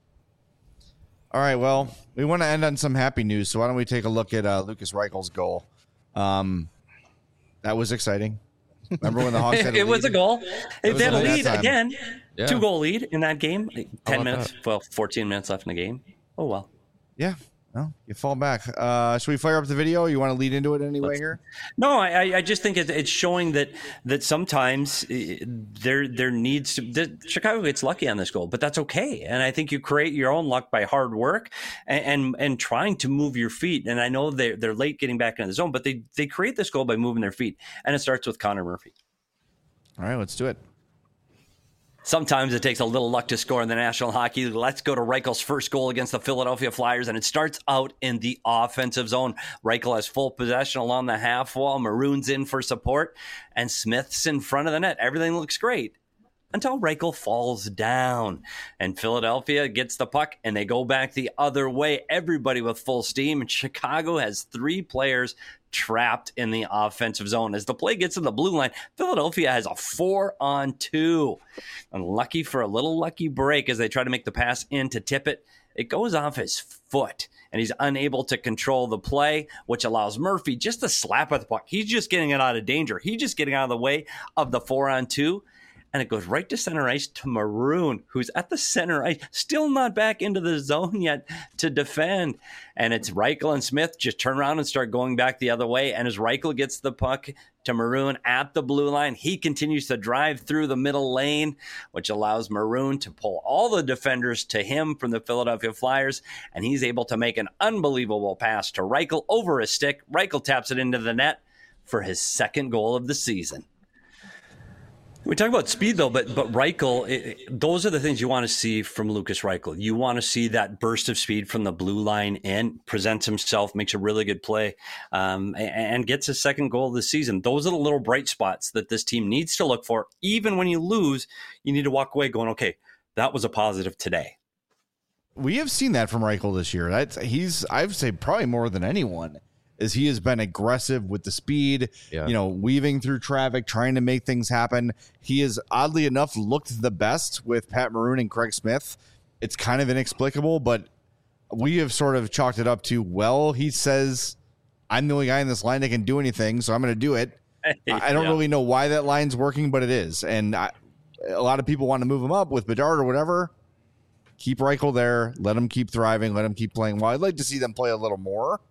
All right, well, we want to end on some happy news, so why don't we take a look at uh, Lukas Reichel's goal? Um, that was exciting. Remember when the Hawks had a it lead? was a goal. It was had a lead time. again. Yeah. Two goal lead in that game. Ten minutes, that? well, fourteen minutes left in the game. Oh well. Yeah. No, you fall back. Uh, should we fire up the video? You want to lead into it anyway Let's, here? No, I, I just think it, it's showing that that sometimes there there needs to. The, Chicago gets lucky on this goal, but that's okay. And I think you create your own luck by hard work and and, and trying to move your feet. And I know they're they're late getting back into the zone, but they they create this goal by moving their feet, and it starts with Connor Murphy. All right, let's do it. Sometimes it takes a little luck to score in the National Hockey League. Let's go to Reichel's first goal against the Philadelphia Flyers, and it starts out in the offensive zone. Reichel has full possession along the half wall. Maroon's in for support, and Smith's in front of the net. Everything looks great until Reichel falls down, and Philadelphia gets the puck, and they go back the other way. Everybody with full steam, and Chicago has three players trapped in the offensive zone. As the play gets to the blue line, Philadelphia has a four on two. Unlucky for a little lucky break as they try to make the pass in to tip it. it goes off his foot, and he's unable to control the play, which allows Murphy just to slap at the puck. He's just getting it out of danger. He's just getting out of the way of the four on two. And it goes right to center ice to Maroon, who's at the center ice, still not back into the zone yet to defend. And it's Reichel and Smith just turn around and start going back the other way. And as Reichel gets the puck to Maroon at the blue line, he continues to drive through the middle lane, which allows Maroon to pull all the defenders to him from the Philadelphia Flyers. And he's able to make an unbelievable pass to Reichel over his stick. Reichel taps it into the net for his second goal of the season. We talk about speed, though, but but Reichel, it, those are the things you want to see from Lukas Reichel. You want to see that burst of speed from the blue line in, presents himself, makes a really good play, um, and, and gets his second goal of the season. Those are the little bright spots that this team needs to look for. Even when you lose, you need to walk away going, okay, that was a positive today. We have seen that from Reichel this year. That's, he's, I would say, probably more than anyone. Is he has been aggressive with the speed, yeah. you know, weaving through traffic, trying to make things happen. He has, oddly enough, looked the best with Pat Maroon and Craig Smith. It's kind of inexplicable, but we have sort of chalked it up to, well, he says, I'm the only guy in this line that can do anything, so I'm going to do it. yeah. I don't really know why that line's working, but it is. And I, a lot of people want to move him up with Bedard or whatever. Keep Reichel there. Let him keep thriving. Let him keep playing. Well, I'd like to see them play a little more.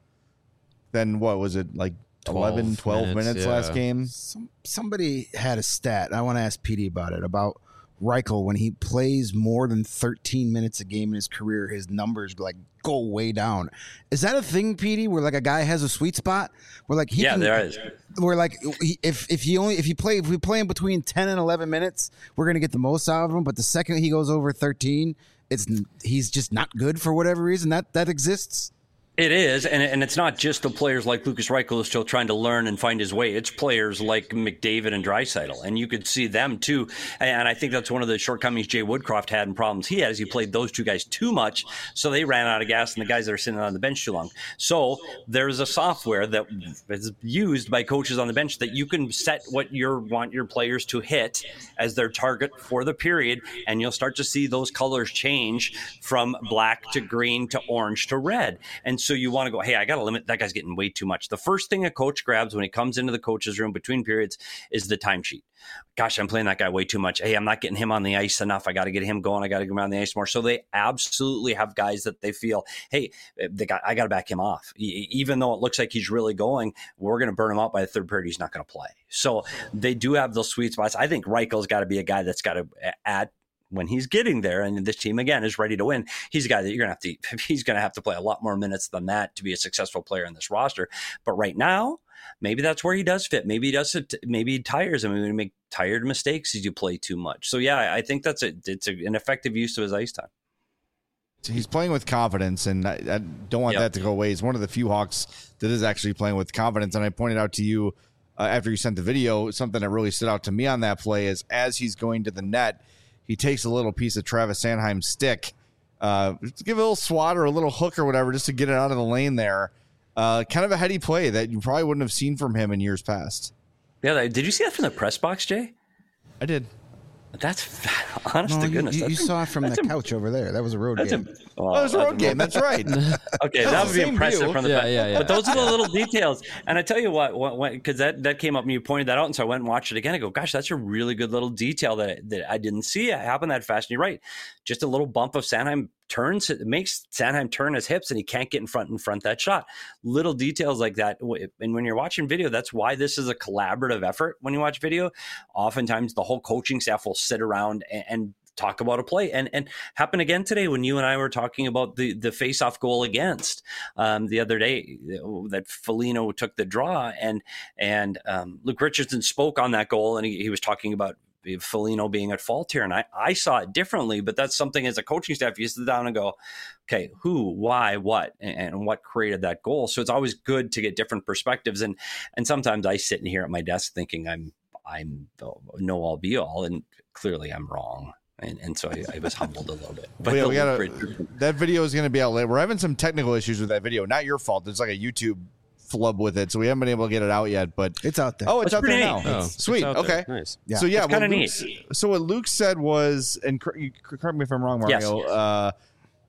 Then what was it, like eleven, twelve minutes, minutes yeah. last game? Some, somebody had a stat. I want to ask P D about it, about Reichel. When he plays more than thirteen minutes a game in his career, his numbers like go way down. Is that a thing, P D, where like a guy has a sweet spot? Where like he yeah, can, there is. Where like if if he only if you play if we play him between ten and eleven minutes, we're gonna get the most out of him. But the second he goes over thirteen, it's he's just not good for whatever reason. That that exists. It is, and and it's not just the players like Lukas Reichel who's still trying to learn and find his way. It's players like McDavid and Draisaitl, and you could see them too. And I think that's one of the shortcomings Jay Woodcroft had and problems he had is he played those two guys too much, so they ran out of gas, and the guys that are sitting on the bench too long. So there's a software that is used by coaches on the bench that you can set what you want your players to hit as their target for the period, and you'll start to see those colors change from black to green to orange to red. And so you want to go, hey, I got to limit, that guy's getting way too much. The first thing a coach grabs when he comes into the coach's room between periods is the timesheet. Gosh, I'm playing that guy way too much. Hey, I'm not getting him on the ice enough. I got to get him going. I got to get him on the ice more. So they absolutely have guys that they feel, hey, they got, I got to back him off. Even though it looks like he's really going, we're going to burn him out by the third period. He's not going to play. So they do have those sweet spots. I think Reichel's got to be a guy that's got to add when he's getting there, and this team again is ready to win. He's a guy that you're gonna have to. He's gonna have to play a lot more minutes than that to be a successful player in this roster. But right now, maybe that's where he does fit. Maybe he does. Maybe he tires him. Maybe make tired mistakes as you play too much. So yeah, I think that's a, it's a, an effective use of his ice time. He's playing with confidence, and I, I don't want yep. that to go away. He's one of the few Hawks that is actually playing with confidence. And I pointed out to you uh, after you sent the video, something that really stood out to me on that play is as he's going to the net, he takes a little piece of Travis Sanheim's stick, uh, to give a little swat or a little hook or whatever, just to get it out of the lane there. Uh, kind of a heady play that you probably wouldn't have seen from him in years past. Yeah, did you see that from the press box, Jay? I did. That's honest no, to you, goodness. You, that's you saw it from the a, couch over there. That was a road game. A, oh, oh, it was a road game. That's right. Okay, that, that would be impressive view. From the yeah, back. Yeah, yeah. But those are the little details. And I tell you what, because that, that came up and you pointed that out, and so I went and watched it again. I go, gosh, that's a really good little detail that, that I didn't see it happen that fast. And you're right. Just a little bump of Sanheim turns, it makes Sanheim turn his hips, and he can't get in front and front that shot. Little details like that. And when you're watching video, that's why this is a collaborative effort. When you watch video, oftentimes the whole coaching staff will sit around and, and talk about a play, and and happened again today when you and I were talking about the the face-off goal against um, the other day that Foligno took the draw, and and um, Luke Richardson spoke on that goal, and he, he was talking about Foligno being at fault here, and I, I saw it differently, but that's something as a coaching staff you sit down and go, okay, who, why, what, and, and what created that goal. So it's always good to get different perspectives, and and sometimes I sit in here at my desk thinking I'm I'm know all be all, and clearly I'm wrong. And, and so I, I was humbled a little bit. But yeah, we gotta, that video is going to be out later. We're having some technical issues with that video. Not your fault. There's like a YouTube flub with it, so we haven't been able to get it out yet. But it's out there. Oh, it's That's out there neat. now. Oh, Sweet. Okay. There. Nice. Yeah. So yeah, kind of neat. So what Luke said was, and correct me if I'm wrong, Mario. Yes. Uh,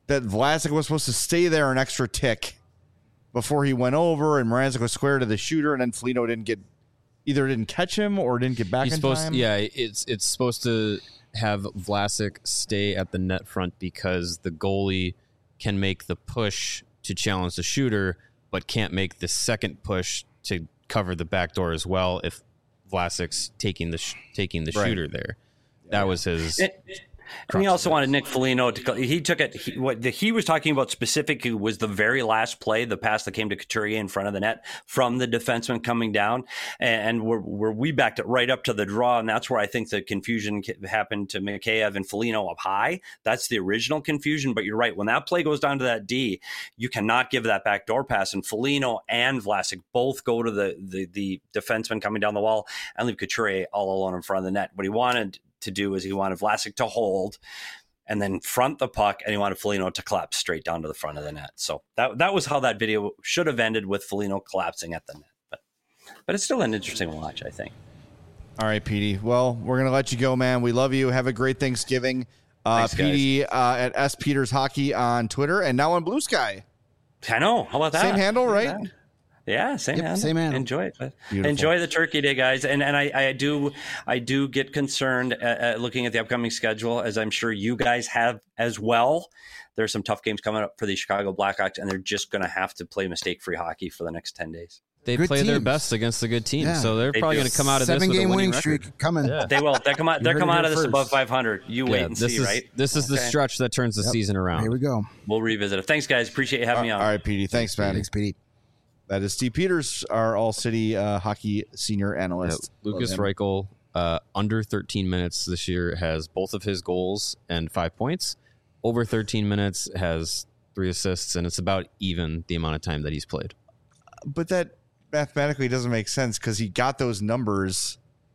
that Vlasic was supposed to stay there an extra tick before he went over, and Mrazek was square to the shooter, and then Foligno didn't get either didn't catch him or didn't get back He's in supposed time. Yeah, it's it's supposed to have Vlasic stay at the net front because the goalie can make the push to challenge the shooter, but can't make the second push to cover the back door as well if Vlasic's taking the sh- taking the Right. shooter there. That was his. It, and he also wanted Nick Foligno to. He took it. He, what the, he was talking about specifically was the very last play, the pass that came to Couturier in front of the net from the defenseman coming down, and where, where we backed it right up to the draw, and that's where I think the confusion happened to Mikheyev and Foligno up high. That's the original confusion. But you're right. When that play goes down to that D, you cannot give that backdoor pass, and Foligno and Vlasic both go to the the, the defenseman coming down the wall and leave Couturier all alone in front of the net. What he wanted to do is he wanted Vlasic to hold and then front the puck, and he wanted Foligno to collapse straight down to the front of the net. So that that was how that video should have ended, with Foligno collapsing at the net. But but it's still an interesting watch, I think. All right, Petey. Well, we're going to let you go, man. We love you. Have a great Thanksgiving. Uh, Thanks, Petey uh, at S Peters Hockey on Twitter and now on Blue Sky. I know. How about that? Same handle, right? Yeah, same Yep, handle. same handle. Enjoy it. Beautiful. Enjoy the Turkey Day, guys. And and I, I do I do get concerned at, at looking at the upcoming schedule, as I'm sure you guys have as well. There's some tough games coming up for the Chicago Blackhawks, and they're just going to have to play mistake-free hockey for the next ten days. They Good play their teams. best against the good teams, Yeah. so they're They probably do. going to come out of this Seven with a game winning winning record. streak coming. Yeah. They will. They come out. They're heard come it out here of this first. above five hundred. You wait Yeah, and this see, is right? this is the Okay. stretch that turns the season around. Here we go. We'll revisit it. Thanks, guys. Appreciate you having me on. All right, Petey. Thanks, man. Thanks, Petey. That is Steve Peters, our All City uh, hockey senior Yeah, analyst. Lucas Love him. Reichel, uh, under thirteen minutes this year, has both of his goals and five points. Over thirteen minutes has three assists, and it's about even the amount of time that he's played. But that mathematically doesn't make sense because he got those numbers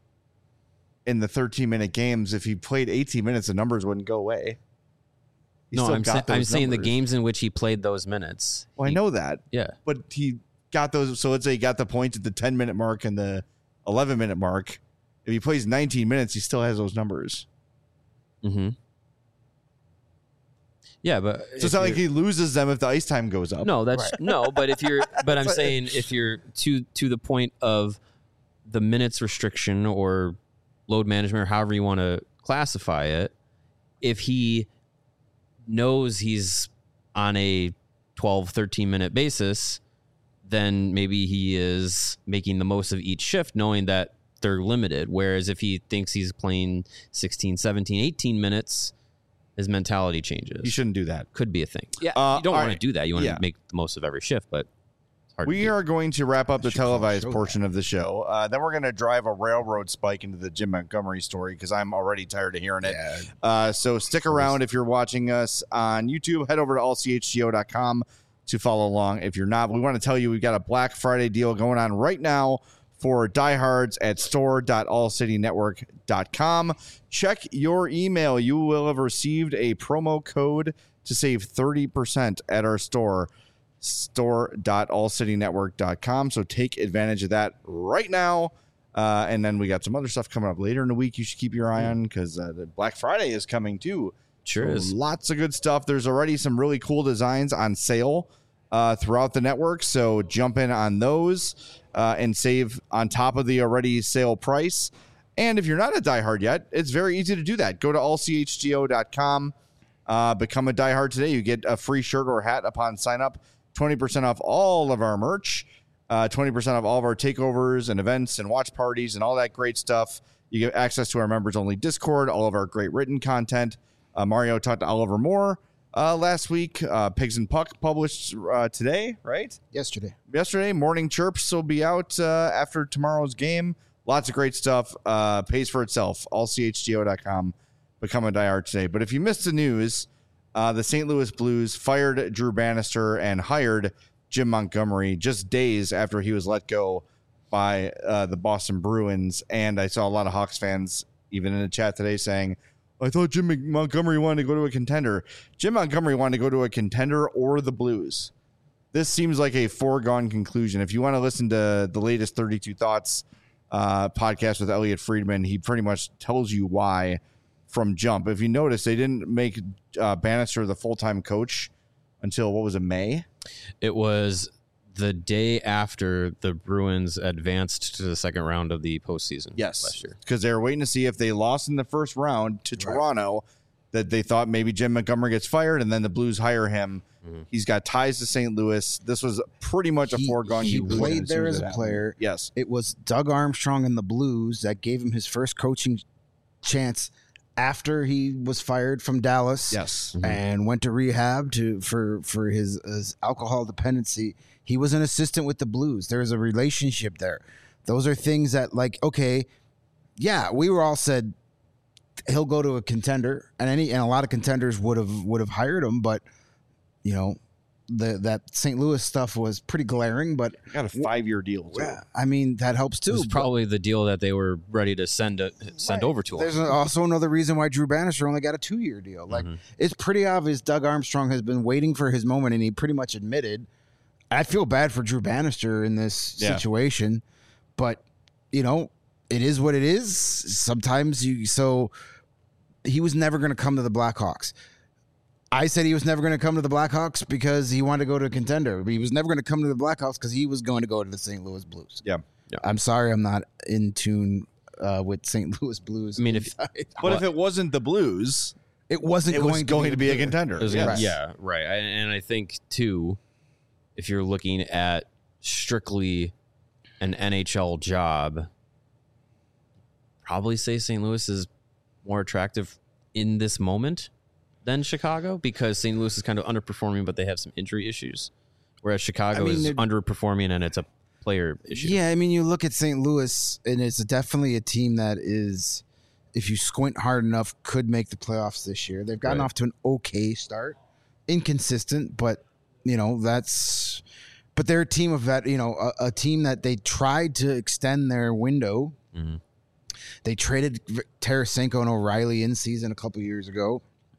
in the thirteen-minute games. If he played eighteen minutes, the numbers wouldn't go away. He no, still I'm, got sa- I'm those saying the numbers. games in which he played those minutes. Well, I he- know that. Yeah. But he got those. So let's say he got the points at the ten-minute mark and the eleven-minute mark. If he plays nineteen minutes, he still has those numbers. Mm-hmm. Yeah, but So if it's not like you're- he loses them if the ice time goes up. No, that's no. But if you're, but I'm saying if you're to to the point of the minutes restriction or load management, or however you want to classify it, if he knows he's on a twelve, thirteen minute basis, then maybe he is making the most of each shift, knowing that they're limited. Whereas if he thinks he's playing sixteen, seventeen, eighteen minutes, his mentality changes. You shouldn't do that. Could be a thing. Yeah, Uh, you don't all want right. to do that. You want Yeah. to make the most of every shift, but it's hard to We do. are going to wrap up the should call a televised show portion of the show. Uh, then we're going to drive a railroad spike into the Jim Montgomery story because I'm already tired of hearing it. Yeah. Uh, so stick around if you're watching us on YouTube. Head over to all c h g o dot com to follow along. If you're not, we want to tell you we've got a Black Friday deal going on right now for diehards at store dot all city network dot com. Check your email. You will have received a promo code to save thirty percent at our store, store dot all city network dot com. So take advantage of that right now. Uh, and then we got some other stuff coming up later in the week you should keep your eye on because uh, the Black Friday is coming too. Sure So is. lots of good stuff. There's already some really cool designs on sale uh, throughout the network. So jump in on those uh, and save on top of the already sale price. And if you're not a diehard yet, it's very easy to do that. Go to all c h g o dot com. Uh, become a diehard today. You get a free shirt or hat upon sign up. twenty percent off all of our merch. Uh, twenty percent off all of our takeovers and events and watch parties and all that great stuff. You get access to our members only Discord, all of our great written content. Uh, Mario talked to Oliver Moore uh, last week. Uh, Pigs and Puck published uh, today, right? Yesterday. Yesterday. Morning Chirps will be out uh, after tomorrow's game. Lots of great stuff. Uh, pays for itself. all c h g o dot com. Become a diehard today. But if you missed the news, uh, the Saint Louis Blues fired Drew Bannister and hired Jim Montgomery just days after he was let go by uh, the Boston Bruins. And I saw a lot of Hawks fans, even in the chat today, saying, I thought Jim Montgomery wanted to go to a contender. Jim Montgomery wanted to go to a contender or the Blues. This seems like a foregone conclusion. If you want to listen to the latest thirty-two Thoughts uh, podcast with Elliot Friedman, he pretty much tells you why from jump. If you notice, they didn't make uh, Bannister the full-time coach until, what was it, May? It was the day after the Bruins advanced to the second round of the postseason. Yes, last year, because they were waiting to see if they lost in the first round to right. Toronto, that they thought maybe Jim Montgomery gets fired, and then the Blues hire him. Mm-hmm. He's got ties to Saint Louis. This was pretty much a he, foregone. He, he played there as a happened. player. Yes, it was Doug Armstrong and the Blues that gave him his first coaching chance after he was fired from Dallas. Yes, mm-hmm. and went to rehab to for for his, his alcohol dependency. He was an assistant with the Blues. There's a relationship there. Those are things that, like, okay, yeah, we were all said he'll go to a contender, and any and a lot of contenders would have would have hired him, but you know, the that Saint Louis stuff was pretty glaring. But got a five year deal. Too. Yeah, I mean that helps too. It was probably the deal that they were ready to send a, send right. over to him. There's also another reason why Drew Bannister only got a two year deal. Like mm-hmm. it's pretty obvious Doug Armstrong has been waiting for his moment, and he pretty much admitted. I feel bad for Drew Bannister in this yeah. situation, but you know, it is what it is. Sometimes you, so he was never going to come to the Blackhawks. I said he was never going to come to the Blackhawks because he wanted to go to a contender. But he was never going to come to the Blackhawks because he was going to go to the Saint Louis Blues. Yeah. yeah. I'm sorry. I'm not in tune uh, with Saint Louis Blues. I mean, if, but well, if it wasn't the Blues, it wasn't it going, was to, going be to be a contender. Was, yes. Yeah. Right. And I think too, if you're looking at strictly an N H L job, probably say Saint Louis is more attractive in this moment than Chicago, because Saint Louis is kind of underperforming, but they have some injury issues, whereas Chicago I mean, is underperforming and it's a player issue. Yeah, I mean, you look at Saint Louis, and it's definitely a team that is, if you squint hard enough, could make the playoffs this year. They've gotten right. off to an okay start, inconsistent, but you know that's. But they're a team of that, you know, a, a team that they tried to extend their window. Mm-hmm. They traded Tarasenko and O'Reilly in season a couple years ago.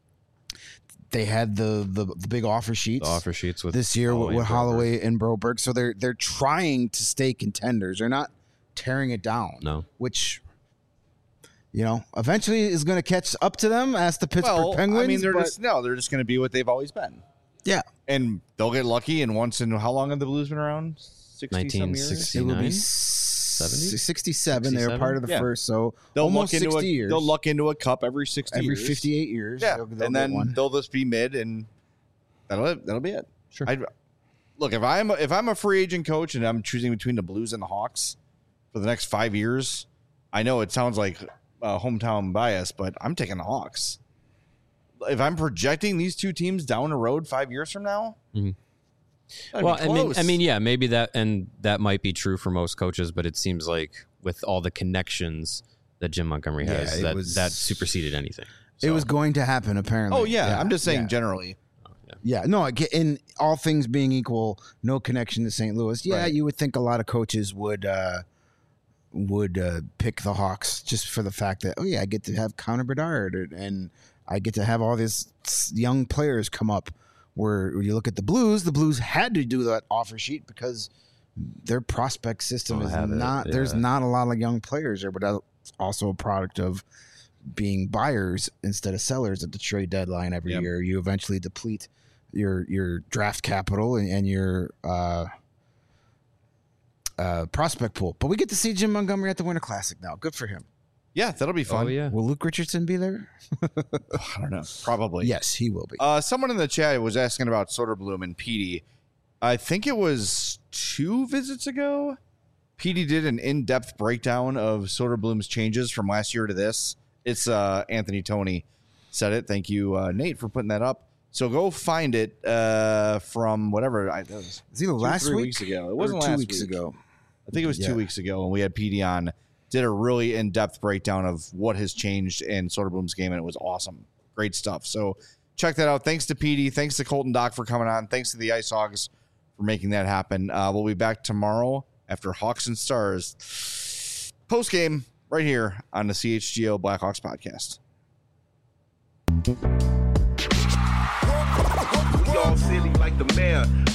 They had the, the the big offer sheets. The offer sheets with this year Holloway with, with and Holloway and Broberg. So they're they're trying to stay contenders. They're not tearing it down. No, which you know eventually is going to catch up to them as the Pittsburgh well, Penguins. I mean, they're but, just no, they're just going to be what they've always been. Yeah, and they'll get lucky. And once in how long have the Blues been around? Sixty some years. It will be seventy, sixty-seven. They were part of the yeah. first, so they'll almost luck into sixty a, years. They'll luck into a cup every sixty every years. fifty-eight years. Yeah, they'll, they'll and then they'll just be mid, and that'll that'll be it. Sure. I'd, look, if I'm if I'm a free agent coach and I'm choosing between the Blues and the Hawks for the next five years, I know it sounds like uh, hometown bias, but I'm taking the Hawks. If I'm projecting these two teams down the road five years from now, mm-hmm. well, I mean, I mean, yeah, maybe that, and that might be true for most coaches, but it seems like with all the connections that Jim Montgomery has, yeah, that was, that superseded anything. So. It was going to happen, apparently. Oh yeah, yeah. I'm just saying yeah. generally. Oh, yeah. yeah, no, in all things being equal, no connection to Saint Louis. Yeah, right. You would think a lot of coaches would uh, would uh, pick the Hawks just for the fact that, oh yeah, I get to have Connor Bedard and I get to have all these young players come up. Where you look at the Blues, the Blues had to do that offer sheet because their prospect system is not. Yeah. There's not a lot of young players there, but that's also a product of being buyers instead of sellers at the trade deadline every yep. year. You eventually deplete your your draft capital and, and your uh, uh, prospect pool. But we get to see Jim Montgomery at the Winter Classic now. Good for him. Yeah, that'll be fun. Oh, yeah. Will Luke Richardson be there? I don't know. Probably. Yes, he will be. Uh, someone in the chat was asking about Soderblom and Petey. I think it was two visits ago. Petey did an in-depth breakdown of Soderblom's changes from last year to this. It's uh, Anthony Tony said it. Thank you, uh, Nate, for putting that up. So go find it uh, from whatever. I, that was Is it last three week? weeks ago. It wasn't two last weeks week. ago. I think it was yeah. two weeks ago when we had Petey on. Did a really in-depth breakdown of what has changed in Soderblom's game, and it was awesome. Great stuff. So check that out. Thanks to Petey. Thanks to Colton Dock for coming on. Thanks to the Ice Hogs for making that happen. Uh, we'll be back tomorrow after Hawks and Stars post-game right here on the C H G O Blackhawks podcast. We all silly like the mayor.